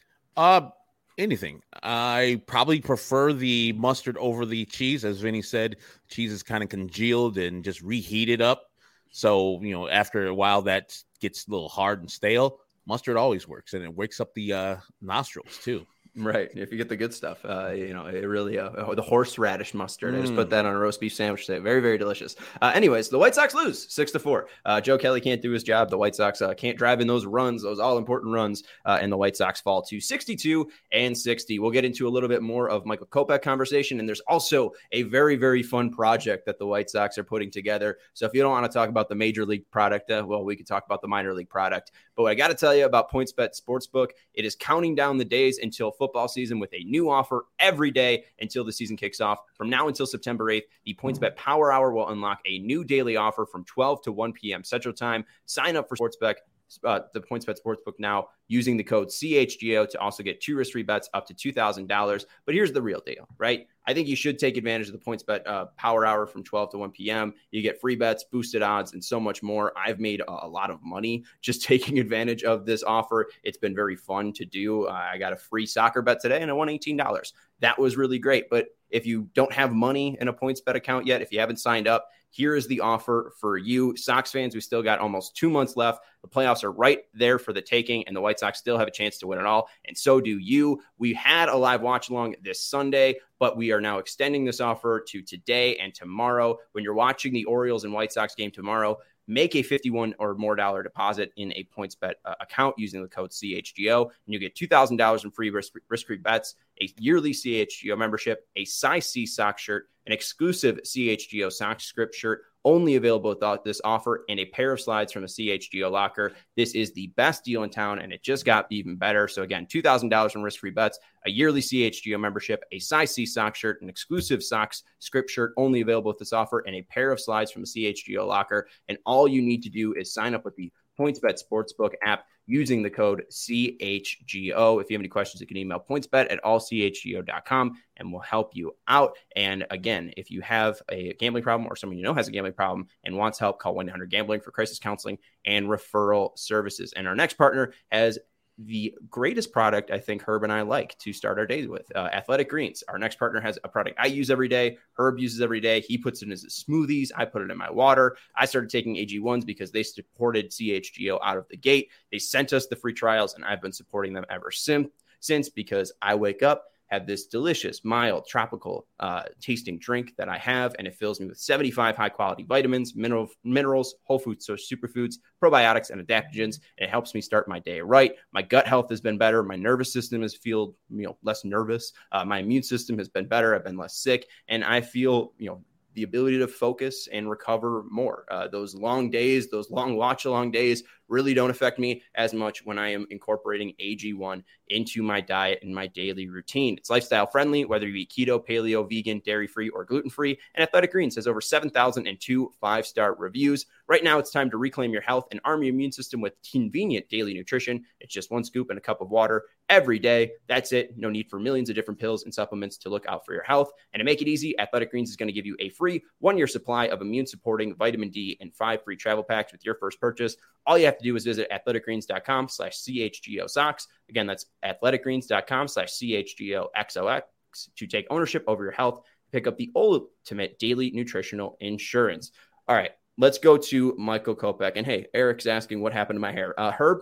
Uh, anything. I probably prefer the mustard over the cheese. As Vinny said, cheese is kind of congealed and just reheated up. So, you know, after a while that gets a little hard and stale. Mustard always works, and it wakes up the uh, nostrils too. Right. If you get the good stuff, uh, you know, it really, uh, the horseradish mustard. Mm. I just put that on a roast beef sandwich today. Very, very delicious. Uh, anyways, the White Sox lose six to four. Uh, Joe Kelly can't do his job. The White Sox uh, can't drive in those runs, those all important runs. Uh, and the White Sox fall to sixty-two and sixty. We'll get into a little bit more of Michael Kopech conversation. And there's also a very, very fun project that the White Sox are putting together. So if you don't want to talk about the major league product, uh, well, we could talk about the minor league product. But what I got to tell you about PointsBet Sportsbook, it is counting down the days until football season with a new offer every day until the season kicks off. From now until September eighth, the PointsBet Power Hour will unlock a new daily offer from twelve to one p.m. Central Time. Sign up for Sportsbook, uh, the PointsBet Sportsbook now using the code C H G O to also get two risk-free bets up to two thousand dollars. But here's the real deal, right? I think you should take advantage of the PointsBet uh, Power Hour from twelve to one p.m. You get free bets, boosted odds, and so much more. I've made a, a lot of money just taking advantage of this offer. It's been very fun to do. Uh, I got a free soccer bet today, and I won eighteen dollars. That was really great. But if you don't have money in a PointsBet account yet, if you haven't signed up, here is the offer for you. Sox fans, we still got almost two months left. The playoffs are right there for the taking, and the White Sox still have a chance to win it all, and so do you. We had a live watch-along this Sunday, but we are now extending this offer to today and tomorrow. When you're watching the Orioles and White Sox game tomorrow, make a fifty-one or more dollar deposit in a PointsBet uh, account using the code C H G O, and you get two thousand dollars in free risk- risk-free bets, a yearly C H G O membership, a size C sock shirt, an exclusive C H G O sock script shirt, only available without this offer, and a pair of slides from the C H G O locker. This is the best deal in town, and it just got even better. So again, two thousand dollars in risk-free bets, a yearly C H G O membership, a size C sock shirt, an exclusive socks script shirt only available with this offer, and a pair of slides from the C H G O locker. And all you need to do is sign up with the PointsBet Sportsbook app using the code C H G O. If you have any questions, you can email pointsbet at all c h g o dot com and we'll help you out. And again, if you have a gambling problem or someone you know has a gambling problem and wants help, call one eight hundred gambling for crisis counseling and referral services. And our next partner has the greatest product I think Herb and I like to start our days with, uh, Athletic Greens. Our next partner has a product I use every day. Herb uses every day. He puts it in his smoothies. I put it in my water. I started taking A G ones because they supported C H G O out of the gate. They sent us the free trials, and I've been supporting them ever since, since because I wake up, have this delicious, mild, tropical uh, tasting drink that I have, and it fills me with seventy-five high-quality vitamins, mineral, minerals, whole food source superfoods, probiotics, and adaptogens, and it helps me start my day right. My gut health has been better. My nervous system has feel you know less nervous. Uh, my immune system has been better. I've been less sick, and I feel you know the ability to focus and recover more. Uh, those long days, those long watch-along days really don't affect me as much when I am incorporating A G one into my diet and my daily routine. It's lifestyle friendly, whether you eat keto, paleo, vegan, dairy-free, or gluten-free. And Athletic Greens has over seven thousand two five-star reviews. Right now, it's time to reclaim your health and arm your immune system with convenient daily nutrition. It's just one scoop and a cup of water every day. That's it. No need for millions of different pills and supplements to look out for your health. And to make it easy, Athletic Greens is going to give you a free one-year supply of immune-supporting vitamin D and five free travel packs with your first purchase. All you have to do is visit athleticgreens.com slash CHGO socks. Again, that's athleticgreens.com slash CHGOXOX to take ownership over your health. Pick up the ultimate daily nutritional insurance. All right, let's go to Michael Kopech. And hey, Eric's asking what happened to my hair. Uh, Herb,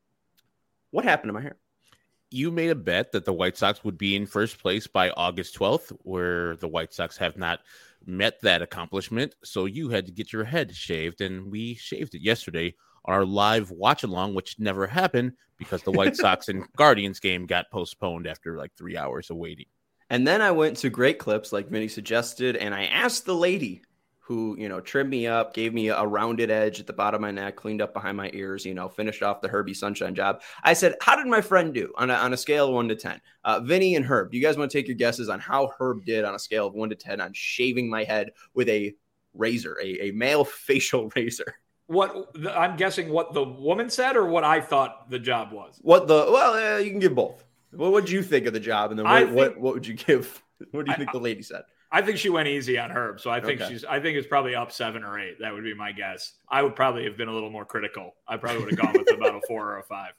what happened to my hair? You made a bet that the White Sox would be in first place by August twelfth, where the White Sox have not met that accomplishment. So you had to get your head shaved, and we shaved it yesterday on our live watch along, which never happened because the White Sox and Guardians game got postponed after like three hours of waiting. And then I went to Great Clips, like Vinny suggested, and I asked the lady who, you know, trimmed me up, gave me a rounded edge at the bottom of my neck, cleaned up behind my ears, you know, finished off the Herbie Sunshine job. I said, how did my friend do on a, on a scale of one to ten? Uh, Vinny and Herb, do you guys want to take your guesses on how Herb did on a scale of one to ten on shaving my head with a razor, a, a male facial razor? What I'm guessing what the woman said or what I thought the job was? What the, well, uh, you can give both. What would you think of the job? And then what, think, what, what would you give? What do you think I, the lady said? I think she went easy on Herb. So I think okay. she's, I think it's probably up seven or eight. That would be my guess. I would probably have been a little more critical. I probably would have gone with about a four or a five.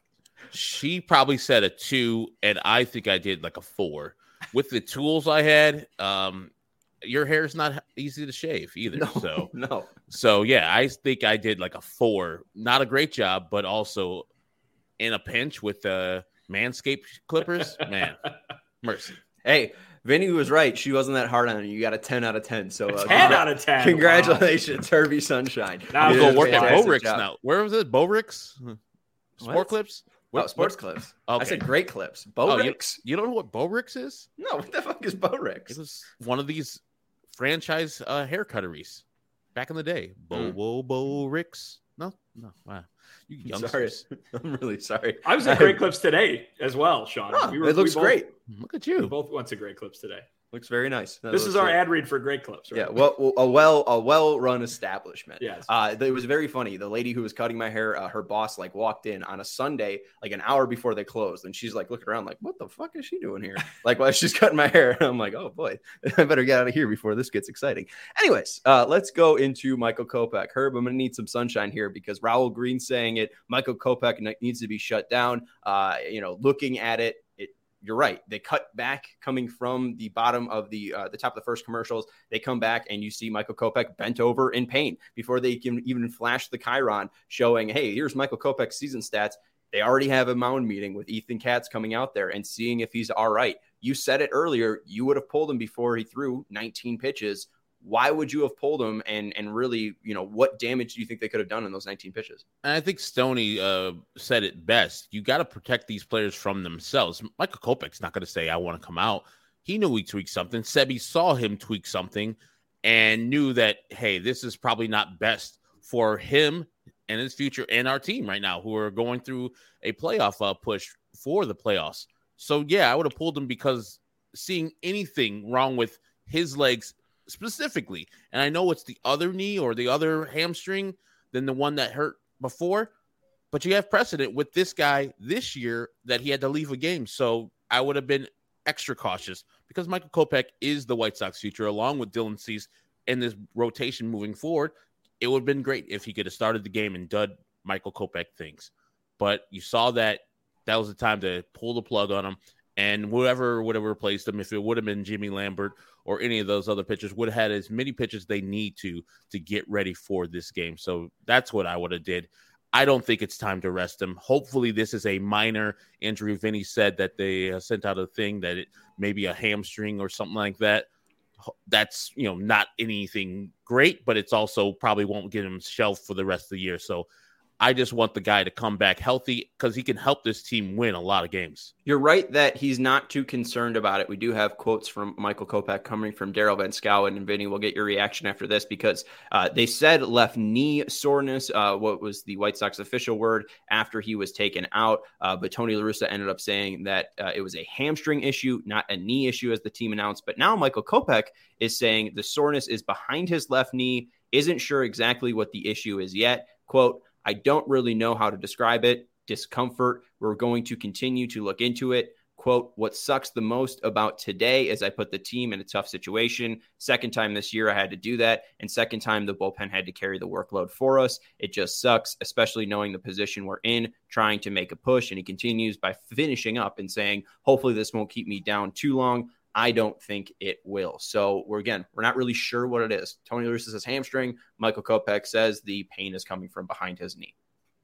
She probably said a two, and I think I did like a four. With the tools I had, um, your hair is not easy to shave either. No, so, no. So, yeah, I think I did like a four. Not a great job, but also in a pinch with the Manscaped clippers. Man, mercy. Hey, Vinny was right. She wasn't that hard on you. You got a ten out of ten. So uh, ten out of ten. Congratulations, wow. Herbie Sunshine. Now I'm going to work at Bowricks now. Where was it? Bowricks? Sport what? Clips? What, oh, Sports what? Clips. Okay. I said Great Clips. Bowricks. Oh, you, you don't know what Bowricks is? No, what the fuck is Bowricks? It was one of these franchise uh, hair cutteries back in the day. Bo, bo, Bowricks. No, no. Wow. You youngsters. Sorry. I'm really sorry. I was at Great Clips today as well, Sean. Oh, we were, it looks we both, great. Look at you. We both went to Great Clips today. Looks very nice. That this is our great. ad read for Great Clips, right? Yeah, well, a well, a well-run establishment. Yes. Uh, it was very funny. The lady who was cutting my hair, uh, her boss, like walked in on a Sunday, like an hour before they closed, and she's like looking around, like, "What the fuck is she doing here?" Like, while she's cutting my hair, and I'm like, "Oh boy, I better get out of here before this gets exciting." Anyways, uh, let's go into Michael Kopech. Herb, I'm gonna need some sunshine here because Raul Green's saying it. Michael Kopech needs to be shut down. Uh, you know, looking at it. You're right. They cut back coming from the bottom of the uh, the top of the first commercials. They come back and you see Michael Kopech bent over in pain before they can even flash the chyron showing, hey, here's Michael Kopech's season stats. They already have a mound meeting with Ethan Katz coming out there and seeing if he's all right. You said it earlier. You would have pulled him before he threw nineteen pitches. Why would you have pulled him? And and really, you know, what damage do you think they could have done in those nineteen pitches? And I think Stoney uh, said it best. You got to protect these players from themselves. Michael Kopech's not going to say, I want to come out. He knew he tweaked something. Sebi saw him tweak something and knew that, hey, this is probably not best for him and his future and our team right now who are going through a playoff uh, push for the playoffs. So, yeah, I would have pulled him because seeing anything wrong with his legs specifically, and I know it's the other knee or the other hamstring than the one that hurt before, but you have precedent with this guy this year that he had to leave a game. So I would have been extra cautious because Michael Kopech is the White Sox future along with Dylan Cease in this rotation moving forward. It would have been great if he could have started the game and done Michael Kopech things, but you saw that that was the time to pull the plug on him. And whoever would have replaced him, if it would have been Jimmy Lambert or any of those other pitchers, would have had as many pitches they need to to get ready for this game. So that's what I would have did. I don't think it's time to rest him. Hopefully this is a minor injury. Vinny said that they uh, sent out a thing that it may be a hamstring or something like that. That's, you know, not anything great, but it's also probably won't get him shelved for the rest of the year. So I just want the guy to come back healthy because he can help this team win a lot of games. You're right that he's not too concerned about it. We do have quotes from Michael Kopech coming from Daryl Van Schouwen, and Vinny, we'll get your reaction after this because uh, they said left knee soreness, uh, what was the White Sox official word after he was taken out. Uh, but Tony La Russa ended up saying that uh, it was a hamstring issue, not a knee issue as the team announced. But now Michael Kopech is saying the soreness is behind his left knee, isn't sure exactly what the issue is yet. Quote, I don't really know how to describe it. Discomfort. We're going to continue to look into it. Quote, what sucks the most about today is I put the team in a tough situation. Second time this year I had to do that. And second time the bullpen had to carry the workload for us. It just sucks, especially knowing the position we're in, trying to make a push. And he continues by finishing up and saying, hopefully this won't keep me down too long. I don't think it will. So we're, again, we're not really sure what it is. Tony La Russa says hamstring. Michael Kopech says the pain is coming from behind his knee.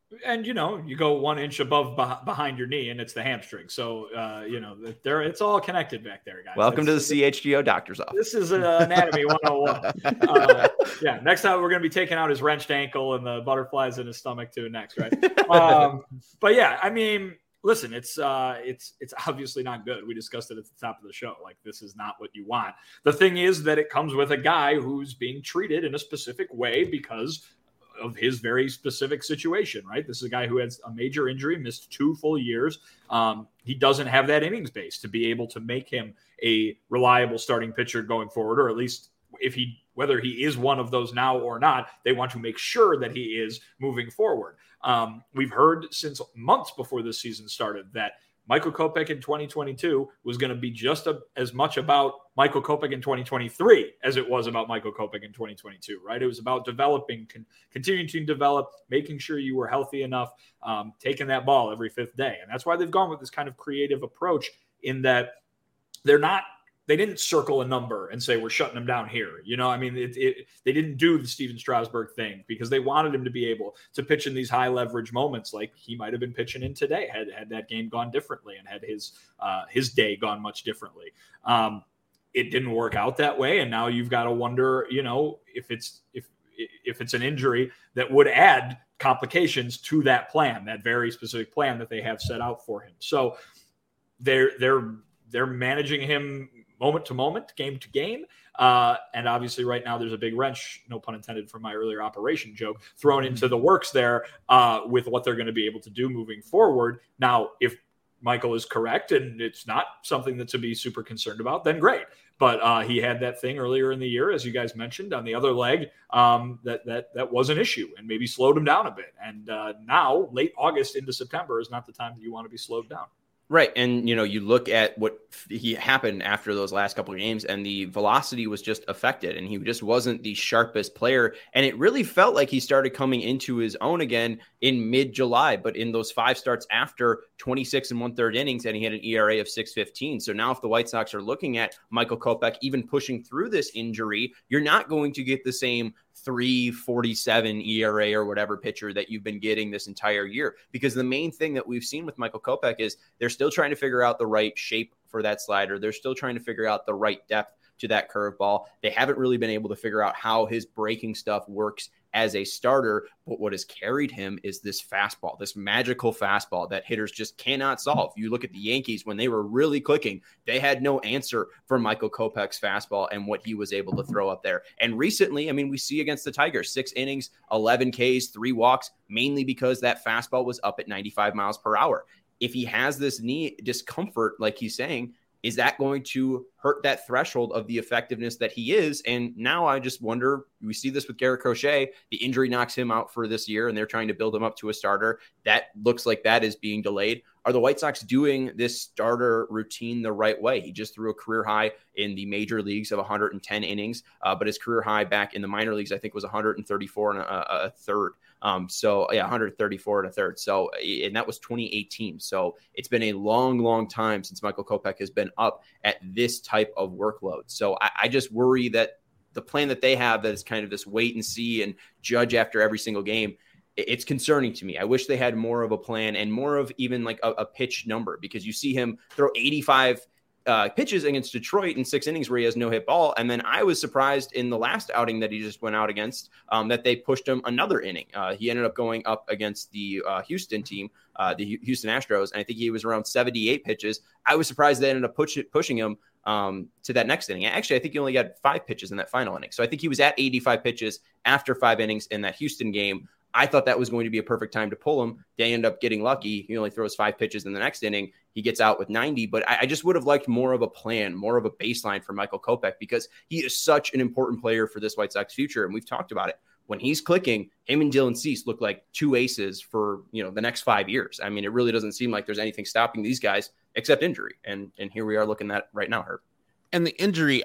And, you know, you go one inch above behind your knee and it's the hamstring. So, uh, you know, there it's all connected back there, guys. Welcome That's, to the C H G O doctor's office. This is uh, anatomy one oh one. Uh, yeah. Next time we're going to be taking out his wrenched ankle and the butterflies in his stomach too next, right? Um, but yeah, I mean, listen, it's uh, it's it's obviously not good. We discussed it at the top of the show. Like, this is not what you want. The thing is that it comes with a guy who's being treated in a specific way because of his very specific situation, right? This is a guy who has a major injury, missed two full years. Um, he doesn't have that innings base to be able to make him a reliable starting pitcher going forward, or at least if he, whether he is one of those now or not, they want to make sure that he is moving forward. Um, we've heard since months before this season started that Michael Kopech in twenty twenty-two was going to be just a, as much about Michael Kopech in twenty twenty-three as it was about Michael Kopech in twenty twenty-two, right? It was about developing, con- continuing to develop, making sure you were healthy enough, um, taking that ball every fifth day. And that's why they've gone with this kind of creative approach in that they're not, they didn't circle a number and say, we're shutting him down here. You know, I mean, it, it, they didn't do the Steven Strasburg thing because they wanted him to be able to pitch in these high leverage moments like he might've been pitching in today, had, had that game gone differently and had his, uh, his day gone much differently. Um, it didn't work out that way. And now you've got to wonder, you know, if it's, if, if it's an injury that would add complications to that plan, that very specific plan that they have set out for him. So they're, they're, they're managing him moment to moment, game to game. Uh, and obviously right now there's a big wrench, no pun intended from my earlier operation joke, thrown into the works there uh, with what they're going to be able to do moving forward. Now, if Michael is correct and it's not something that to be super concerned about, then great. But uh, he had that thing earlier in the year, as you guys mentioned, on the other leg um, that that that was an issue and maybe slowed him down a bit. And uh, now, late August into September is not the time that you want to be slowed down. Right. And, you know, you look at what he happened after those last couple of games and the velocity was just affected and he just wasn't the sharpest player. And it really felt like he started coming into his own again in mid July, but in those five starts after twenty-six and one third innings, and he had an E R A of six fifteen. So now if the White Sox are looking at Michael Kopech, even pushing through this injury, you're not going to get the same three forty-seven E R A or whatever pitcher that you've been getting this entire year. Because the main thing that we've seen with Michael Kopech is they're still trying to figure out the right shape for that slider. They're still trying to figure out the right depth to that curveball. They haven't really been able to figure out how his breaking stuff works as a starter, but what has carried him is this fastball, this magical fastball that hitters just cannot solve. You look at the Yankees when they were really clicking, they had no answer for Michael Kopech's fastball and what he was able to throw up there. And recently, I mean, we see against the Tigers, six innings, eleven Ks, three walks, mainly because that fastball was up at ninety-five miles per hour. If he has this knee discomfort, like he's saying, is that going to hurt that threshold of the effectiveness that he is? And now I just wonder, we see this with Garrett Crochet, the injury knocks him out for this year and they're trying to build him up to a starter. That looks like that is being delayed. Are the White Sox doing this starter routine the right way? He just threw a career high in the major leagues of one hundred ten innings, uh, but his career high back in the minor leagues, I think, was one hundred thirty-four and a, a third. Um, so yeah, one hundred thirty-four and a third. So, and that was twenty eighteen. So it's been a long, long time since Michael Kopech has been up at this type of workload. So I, I just worry that the plan that they have, that is kind of this wait and see and judge after every single game, it's concerning to me. I wish they had more of a plan and more of even like a, a pitch number, because you see him throw eighty-five uh, pitches against Detroit in six innings where he has no hit ball. And then I was surprised in the last outing that he just went out against um, that they pushed him another inning. Uh, he ended up going up against the uh, Houston team, uh, the Houston Astros. And I think he was around seventy-eight pitches. I was surprised they ended up push it, pushing him um, to that next inning. Actually, I think he only got five pitches in that final inning. So I think he was at eighty-five pitches after five innings in that Houston game. I thought that was going to be a perfect time to pull him. They end up getting lucky. He only throws five pitches in the next inning. He gets out with ninety, but I, I just would have liked more of a plan, more of a baseline for Michael Kopech, because he is such an important player for this White Sox future. And we've talked about it. When he's clicking, him and Dylan Cease look like two aces for, you know, the next five years. I mean, it really doesn't seem like there's anything stopping these guys except injury. And, and here we are looking at right now, Herb. And the injury,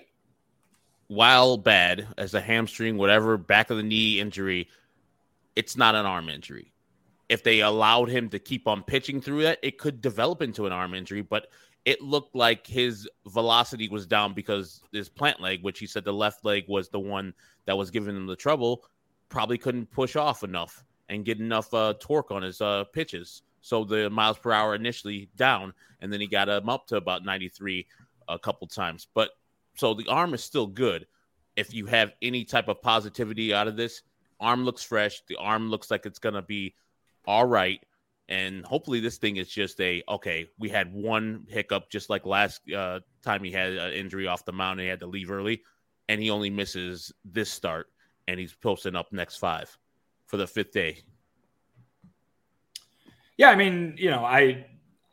while bad as a hamstring, whatever, back of the knee injury, it's not an arm injury. If they allowed him to keep on pitching through that, it could develop into an arm injury, but it looked like his velocity was down because his plant leg, which he said the left leg was the one that was giving him the trouble, probably couldn't push off enough. and get enough uh, torque on his uh, pitches. So the miles per hour initially down, and then he got him up to about ninety-three a couple times. But so the arm is still good. If you have any type of positivity out of this, arm looks fresh. The arm looks like it's going to be all right. And hopefully this thing is just a, okay, we had one hiccup just like last uh, time he had an injury off the mound and he had to leave early, and he only misses this start, and he's posting up next five for the fifth day. Yeah, I mean, you know, I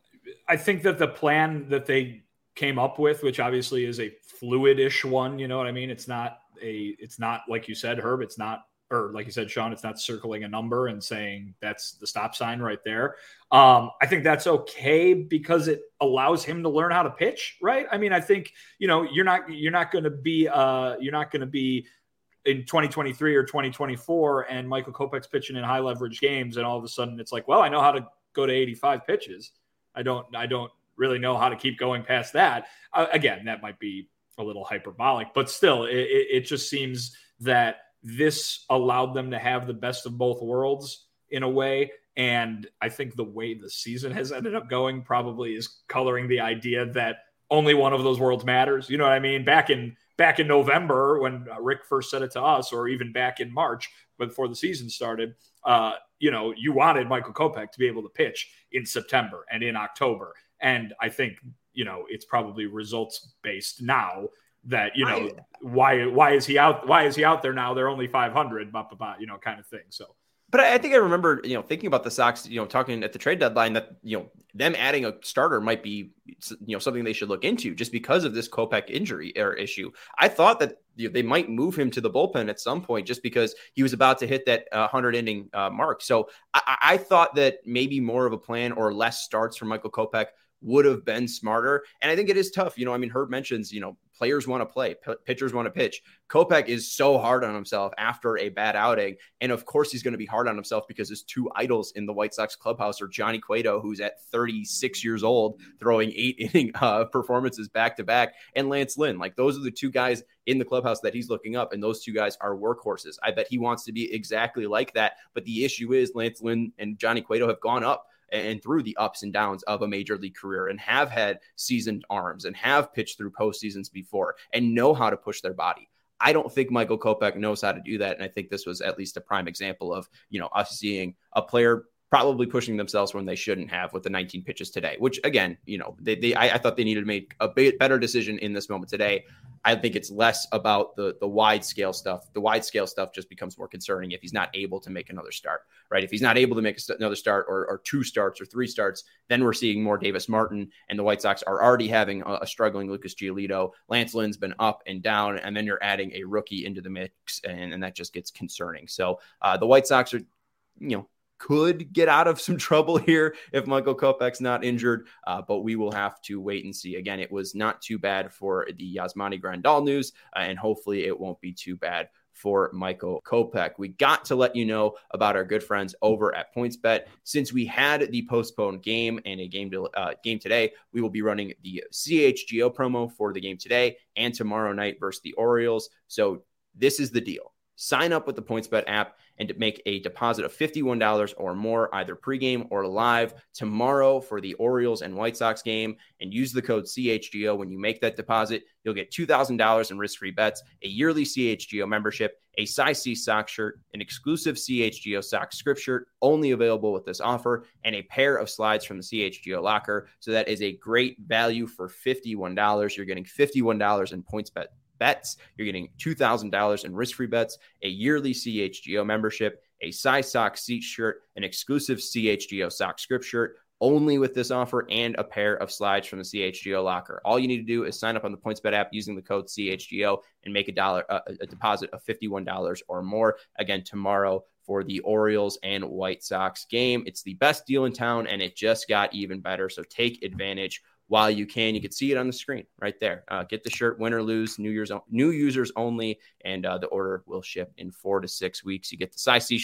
I think that the plan that they came up with, which obviously is a fluid-ish one, you know what I mean? It's not a, it's not like you said, Herb, it's not, or like you said, Sean, it's not circling a number and saying that's the stop sign right there. Um, I think that's okay because it allows him to learn how to pitch, right? I mean, I think, you know, you're not, you're not going to be, uh, you're not going to be in twenty twenty-three or twenty twenty-four and Michael Kopech's pitching in high leverage games. And all of a sudden it's like, well, I know how to go to eighty-five pitches. I don't, I don't really know how to keep going past that. Uh, again, that might be a little hyperbolic, but still it, it, it just seems that this allowed them to have the best of both worlds in a way. And I think the way the season has ended up going probably is coloring the idea that only one of those worlds matters. You know what I mean? Back in, back in November when Rick first said it to us, or even back in March before the season started, uh, you know, you wanted Michael Kopech to be able to pitch in September and in October. And I think, you know, it's probably results based now that, you know, I, why, why is he out? Why is he out there now? They're only five hundred, blah, blah, blah, you know, kind of thing. So, but I think I remember, you know, thinking about the Sox, you know, talking at the trade deadline that, you know, them adding a starter might be, you know, something they should look into just because of this Kopech injury or issue. I thought that, you know, they might move him to the bullpen at some point just because he was about to hit that uh, hundred inning uh, mark. So I, I thought that maybe more of a plan or less starts for Michael Kopech would have been smarter. And I think it is tough. You know, I mean, Herb mentions, you know, players want to play, p- pitchers want to pitch. Kopech is so hard on himself after a bad outing. And of course he's going to be hard on himself because his two idols in the White Sox clubhouse are Johnny Cueto, who's at thirty-six years old, throwing eight inning uh, performances back to back, and Lance Lynn. Like, those are the two guys in the clubhouse that he's looking up. And those two guys are workhorses. I bet he wants to be exactly like that. But the issue is Lance Lynn and Johnny Cueto have gone up and through the ups and downs of a major league career and have had seasoned arms and have pitched through postseasons before and know how to push their body. I don't think Michael Kopech knows how to do that. And I think this was at least a prime example of, you know, us seeing a player probably pushing themselves when they shouldn't have with the nineteen pitches today, which again, you know, they, they I, I thought they needed to make a bit better decision in this moment today. I think it's less about the the wide scale stuff. The wide scale stuff just becomes more concerning if he's not able to make another start, right? If he's not able to make another start or, or two starts or three starts, then we're seeing more Davis Martin, and the White Sox are already having a, a struggling Lucas Giolito. Lance Lynn's been up and down, and then you're adding a rookie into the mix, and, and that just gets concerning. So uh, the White Sox are, you know, could get out of some trouble here if Michael Kopech's not injured, uh, but we will have to wait and see. Again, it was not too bad for the Yasmani Grandal news, uh, and hopefully it won't be too bad for Michael Kopech. We got to let you know about our good friends over at PointsBet. Since we had the postponed game and a game to, uh, game today, we will be running the C H G O promo for the game today and tomorrow night versus the Orioles. So this is the deal. Sign up with the PointsBet app and make a deposit of fifty-one dollars or more, either pregame or live, tomorrow for the Orioles and White Sox game, and use the code C H G O when you make that deposit. You'll get two thousand dollars in risk-free bets, a yearly C H G O membership, a size C sock shirt, an exclusive C H G O sock script shirt, only available with this offer, and a pair of slides from the C H G O locker. So that is a great value for fifty-one dollars. You're getting fifty-one dollars in PointsBet bets. You're getting two thousand dollars in risk-free bets, a yearly C H G O membership, a size sock seat shirt, an exclusive C H G O sock script shirt, only with this offer, and a pair of slides from the C H G O locker. All you need to do is sign up on the PointsBet app using the code C H G O and make a dollar uh, a deposit of fifty-one dollars or more. Again, tomorrow for the Orioles and White Sox game. It's the best deal in town, and it just got even better. So take advantage while you can. You can see it on the screen right there. Uh, get the shirt, win or lose, New Year's new users only, and uh, the order will ship in four to six weeks. You get the size C shirt,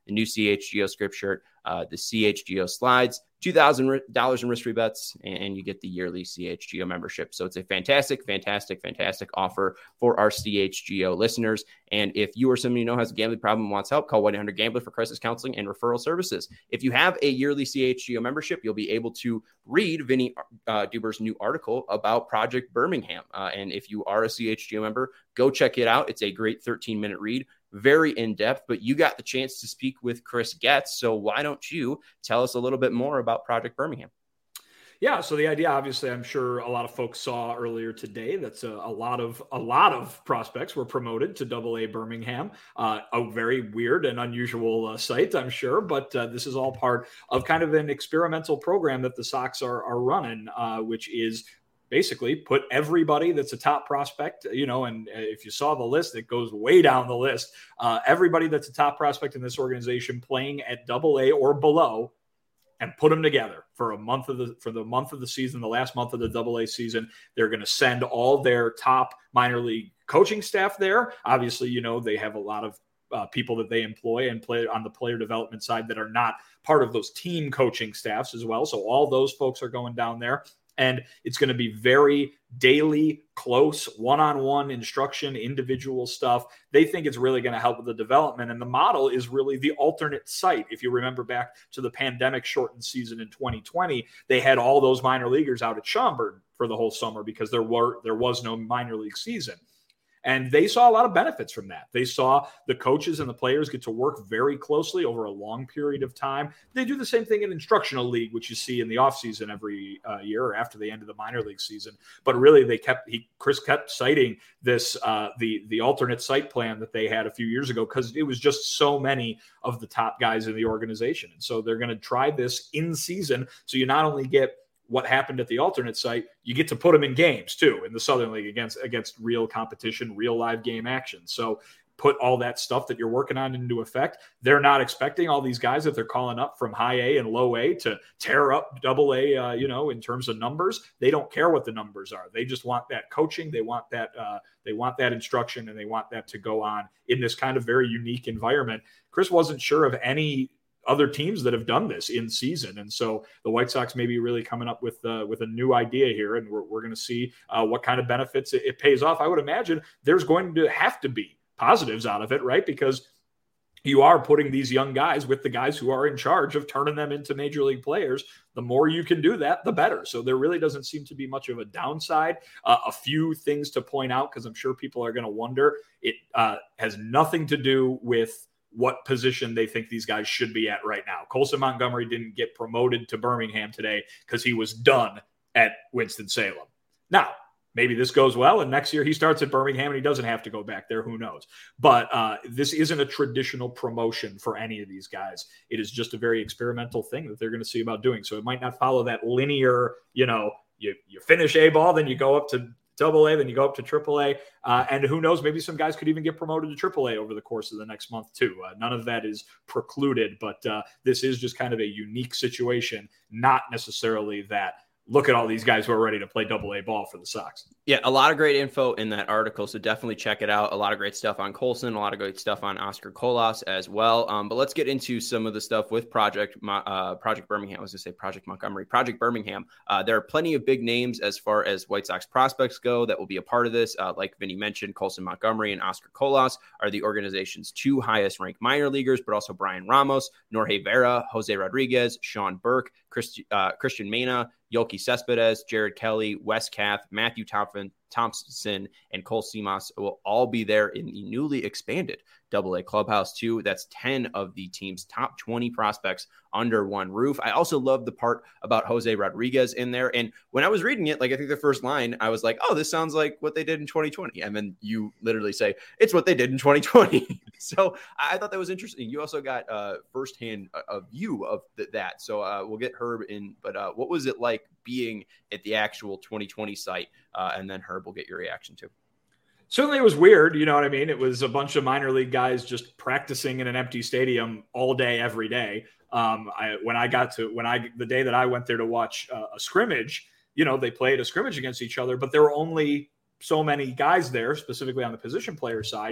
the new C H G O script shirt, uh, the C H G O slides, two thousand dollars in risk-free bets, and you get the yearly C H G O membership. So it's a fantastic, fantastic, fantastic offer for our C H G O listeners. And if you or somebody you know has a gambling problem and wants help, call one eight hundred gambler for crisis counseling and referral services. If you have a yearly C H G O membership, you'll be able to read Vinny uh, Duber's new article about Project Birmingham. Uh, and if you are a C H G O member, go check it out. It's a great thirteen-minute read. Very in-depth, but you got the chance to speak with Chris Getz. So why don't you tell us a little bit more about Project Birmingham? Yeah, so the idea, obviously, I'm sure a lot of folks saw earlier today. That's a, a lot of a lot of prospects were promoted to Double A Birmingham. Uh, a very weird and unusual uh, site, I'm sure, but uh, this is all part of kind of an experimental program that the Sox are are running, uh, which is basically put everybody that's a top prospect, you know, and if you saw the list, it goes way down the list. Uh, everybody that's a top prospect in this organization playing at Double A or below, and put them together for a month of the for the month of the season, the last month of the Double A season. They're going to send all their top minor league coaching staff there. Obviously, you know, they have a lot of uh, people that they employ and play on the player development side that are not part of those team coaching staffs as well. So all those folks are going down there. And it's going to be very daily, close, one-on-one instruction, individual stuff. They think it's really going to help with the development. And the model is really the alternate site. If you remember back to the pandemic shortened season in twenty twenty, they had all those minor leaguers out at Schaumburg for the whole summer because there were there was no minor league season. And they saw a lot of benefits from that. They saw the coaches and the players get to work very closely over a long period of time. They do the same thing in instructional league, which you see in the offseason every uh, year or after the end of the minor league season. But really, they kept he Chris kept citing this uh, the the alternate site plan that they had a few years ago because it was just so many of the top guys in the organization. And so they're going to try this in season. So you not only get what happened at the alternate site, you get to put them in games too in the Southern League against against real competition, real live game action. So put all that stuff that you're working on into effect. They're not expecting all these guys that they're calling up from high A and low A to tear up double A, uh, you know, in terms of numbers. They don't care what the numbers are. They just want that coaching. They want that, uh, they want that instruction, and they want that to go on in this kind of very unique environment. Chris wasn't sure of any other teams that have done this in season. And so the White Sox may be really coming up with uh, with a new idea here, and we're, we're going to see uh, what kind of benefits it, it pays off. I would imagine there's going to have to be positives out of it, right? Because you are putting these young guys with the guys who are in charge of turning them into major league players. The more you can do that, the better. So there really doesn't seem to be much of a downside. Uh, a few things to point out, because I'm sure people are going to wonder. It uh, has nothing to do with what position they think these guys should be at right now. Colson Montgomery didn't get promoted to Birmingham today because he was done at Winston-Salem. Now, maybe this goes well, and next year he starts at Birmingham and he doesn't have to go back there. Who knows? But uh, this isn't a traditional promotion for any of these guys. It is just a very experimental thing that they're going to see about doing. So it might not follow that linear, you know, you, you finish A ball, then you go up to Double A, then you go up to Triple A, uh, and who knows, maybe some guys could even get promoted to Triple A over the course of the next month too. Uh, none of that is precluded, but uh, this is just kind of a unique situation, not necessarily that look at all these guys who are ready to play Double A ball for the Sox. Yeah, a lot of great info in that article, so definitely check it out. A lot of great stuff on Colson, a lot of great stuff on Oscar Colas as well. Um, but let's get into some of the stuff with Project uh, Project Birmingham. I was going to say Project Montgomery. Project Birmingham. Uh, there are plenty of big names as far as White Sox prospects go that will be a part of this. Uh, like Vinny mentioned, Colson Montgomery and Oscar Colas are the organization's two highest ranked minor leaguers, but also Brian Ramos, Norge Vera, Jose Rodriguez, Sean Burke, Christ, uh, Christian Mena, Yoki Cespedes, Jared Kelly, Wes Kath, Matthew Thompson, Thompson, and Cole Seamas will all be there in the newly expanded Double A clubhouse too. That's ten of the team's top twenty prospects under one roof. I also love the part about Jose Rodriguez in there. And when I was reading it, like I think the first line, I was like, oh, this sounds like what they did in twenty twenty. And then you literally say, it's what they did in twenty twenty. So I thought that was interesting. You also got uh, firsthand a, a view of th- that. So uh, we'll get Herb in. But uh, what was it like being at the actual twenty twenty site? Uh, and then Herb will get your reaction too. Certainly it was weird. You know what I mean? It was a bunch of minor league guys just practicing in an empty stadium all day, every day. Um, I, when I got to, when I, the day that I went there to watch uh, a scrimmage, you know, they played a scrimmage against each other, but there were only so many guys there, specifically on the position player side.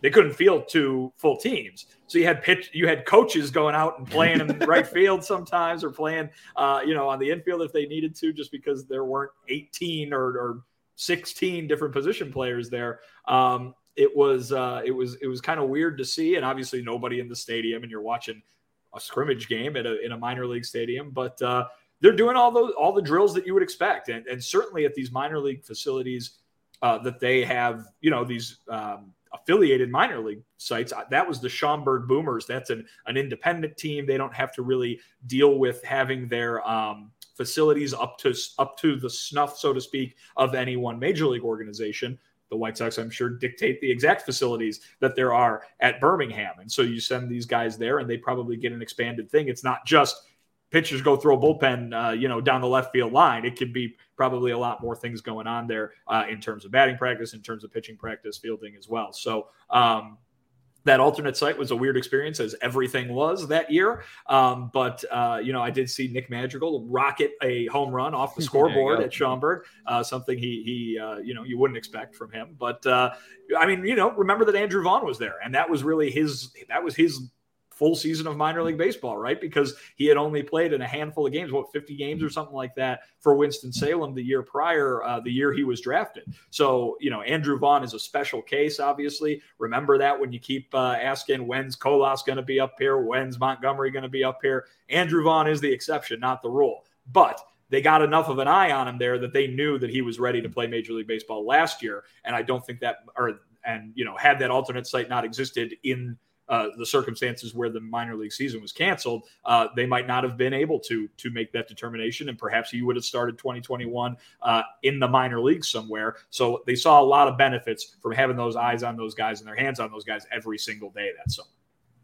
they couldn't field two full teams. So you had pitch, you had coaches going out and playing in right field sometimes, or playing, uh, you know, on the infield if they needed to, just because there weren't eighteen or, or sixteen different position players there. Um, it was, uh, it was, it was kind of weird to see, and obviously nobody in the stadium, and you're watching a scrimmage game at a, in a minor league stadium, but uh, they're doing all those, all the drills that you would expect. And, and certainly at these minor league facilities uh, that they have, you know, these um, affiliated minor league sites, that was the Schaumburg Boomers. That's an, an independent team. They don't have to really deal with having their um, facilities up to, up to the snuff, so to speak, of any one major league organization. The White Sox, I'm sure, dictate the exact facilities that there are at Birmingham. And so you send these guys there and they probably get an expanded thing. It's not just pitchers go throw a bullpen, uh, you know, down the left field line. It could be probably a lot more things going on there uh, in terms of batting practice, in terms of pitching practice, fielding as well. So um, that alternate site was a weird experience, as everything was that year. Um, but, uh, you know, I did see Nick Madrigal rocket a home run off the scoreboard at Schaumburg, uh, something he, he uh, you know, you wouldn't expect from him. But, uh, I mean, you know, remember that Andrew Vaughn was there, and that was really his, that was his full season of minor league baseball, right? Because he had only played in a handful of games, what, fifty games or something like that for Winston-Salem the year prior, uh, the year he was drafted. So, you know, Andrew Vaughn is a special case, obviously. Remember that when you keep uh, asking, when's Colas going to be up here? When's Montgomery going to be up here? Andrew Vaughn is the exception, not the rule. But they got enough of an eye on him there that they knew that he was ready to play Major League Baseball last year. And I don't think that, or, and, you know, had that alternate site not existed in Uh, the circumstances where the minor league season was canceled, uh, they might not have been able to to make that determination, and perhaps he would have started twenty twenty-one uh, in the minor leagues somewhere. So they saw a lot of benefits from having those eyes on those guys and their hands on those guys every single day that summer.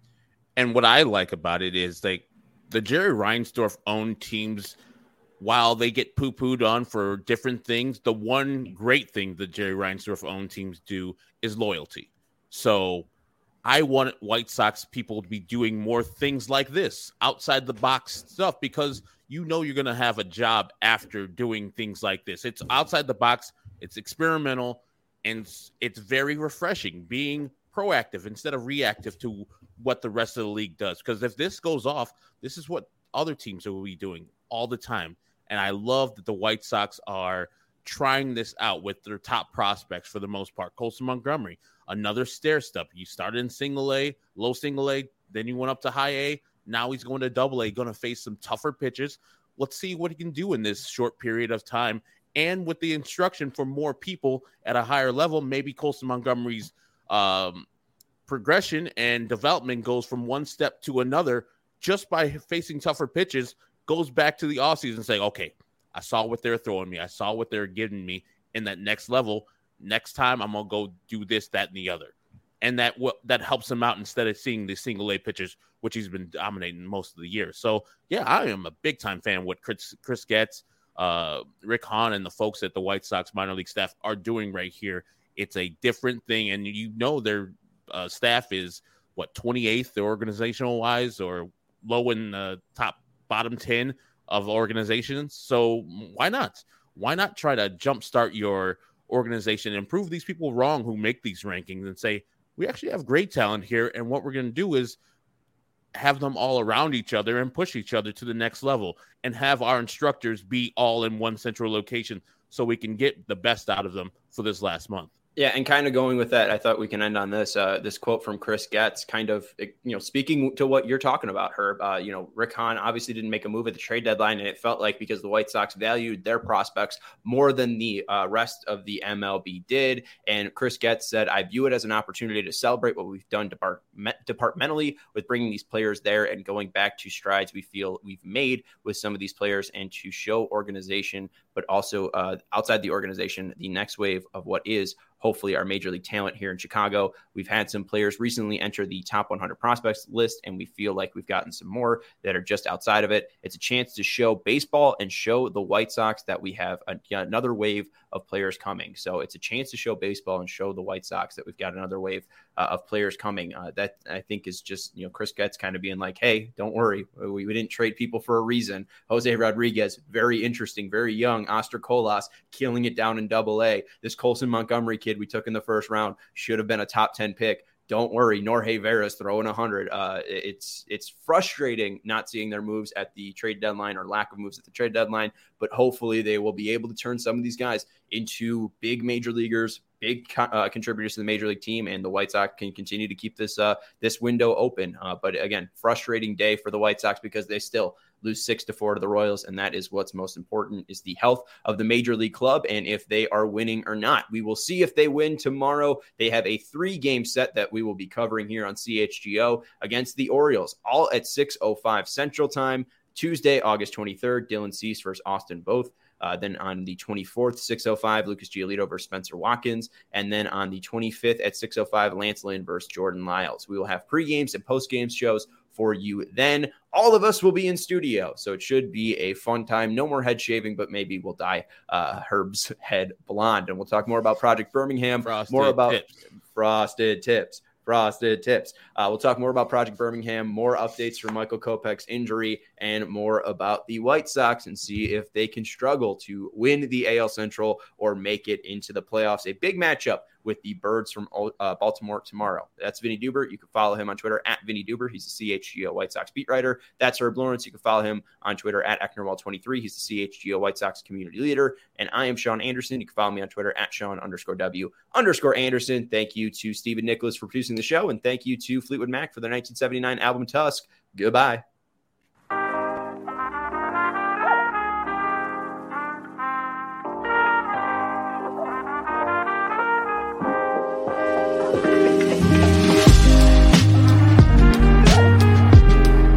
And what I like about it is like the Jerry Reinsdorf owned teams, while they get poo-pooed on for different things, the one great thing the Jerry Reinsdorf owned teams do is loyalty. So I want White Sox people to be doing more things like this, outside the box stuff, because you know you're going to have a job after doing things like this. It's outside the box, it's experimental, and it's very refreshing being proactive instead of reactive to what the rest of the league does. Because if this goes off, this is what other teams will be doing all the time. And I love that the White Sox are trying this out with their top prospects for the most part. Colson Montgomery, another stair step. You started in single A, low single A, then you went up to high A. Now he's going to double A, going to face some tougher pitches. Let's see what he can do in this short period of time. And with the instruction for more people at a higher level, maybe Colson Montgomery's um, progression and development goes from one step to another just by facing tougher pitches, goes back to the offseason saying, okay, I saw what they're throwing me. I saw what they're giving me in that next level. Next time I'm going to go do this, that, and the other. And that that helps him out instead of seeing the single A pitches, which he's been dominating most of the year. So, yeah, I am a big-time fan of what Chris, Chris Getz, uh, Rick Hahn, and the folks at the White Sox minor league staff are doing right here. It's a different thing, and you know their uh, staff is, what, twenty-eighth organizational-wise, or low in the top bottom ten of organizations. So why not? Why not try to jumpstart your organization and prove these people wrong who make these rankings and say, we actually have great talent here, and what we're going to do is have them all around each other and push each other to the next level and have our instructors be all in one central location so we can get the best out of them for this last month. Yeah, and kind of going with that, I thought we can end on this. Uh, this quote from Chris Getz, kind of, you know, speaking to what you're talking about, Herb. Uh, you know, Rick Hahn obviously didn't make a move at the trade deadline, and it felt like because the White Sox valued their prospects more than the uh, rest of the M L B did. And Chris Getz said, "I view it as an opportunity to celebrate what we've done depart- departmentally with bringing these players there and going back to strides we feel we've made with some of these players, and to show organization, but also uh, outside the organization, the next wave of what is hopefully our major league talent here in Chicago. We've had some players recently enter the top one hundred prospects list, and we feel like we've gotten some more that are just outside of it. It's a chance to show baseball and show the White Sox that we have a, another wave of players coming. So it's a chance to show baseball and show the White Sox that we've got another wave uh, of players coming. Uh, that I think is just, you know, Chris Getz kind of being like, hey, don't worry. We, we didn't trade people for a reason. Jose Rodriguez, very interesting, very young. Oscar Colas, killing it down in double A. This Colson Montgomery kid we took in the first round should have been a top ten pick. don't worry, Jorge Vera's throwing one hundred. Uh, it's it's frustrating not seeing their moves at the trade deadline or lack of moves at the trade deadline, but hopefully they will be able to turn some of these guys into big major leaguers, big uh, contributors to the major league team, and the White Sox can continue to keep this uh, this window open. Uh, but again, frustrating day for the White Sox because they still lose six to four to the Royals, and that is what's most important, is the health of the major league club and if they are winning or not. We will see if they win tomorrow. They have a three-game set that we will be covering here on C H G O against the Orioles, all at six oh five Central Time, Tuesday, August twenty-third, Dylan Cease versus Austin Voth. Uh, then on the twenty-fourth, six oh five, Lucas Giolito versus Spencer Watkins. And then on the twenty-fifth at six oh five, Lance Lynn versus Jordan Lyles. We will have pre-games and post-games shows for you then. All of us will be in studio, so it should be a fun time. No more head shaving, but maybe we'll dye uh, Herb's head blonde. And we'll talk more about Project Birmingham, Frosted more about tips. Frosted Tips. Frosted Tips. Uh, we'll talk more about Project Birmingham, more updates for Michael Kopech's injury, and more about the White Sox, and see if they can struggle to win the A L Central or make it into the playoffs. A big matchup with the Birds from uh, Baltimore tomorrow. That's Vinny Duber. You can follow him on Twitter at Vinny Duber. He's the C H G O White Sox beat writer. That's Herb Lawrence. You can follow him on Twitter at Ecknerwall twenty-three. He's the C H G O White Sox community leader. And I am Sean Anderson. You can follow me on Twitter at Sean underscore W underscore Anderson. Thank you to Stephen Nicholas for producing the show. And thank you to Fleetwood Mac for their nineteen seventy-nine album Tusk. Goodbye.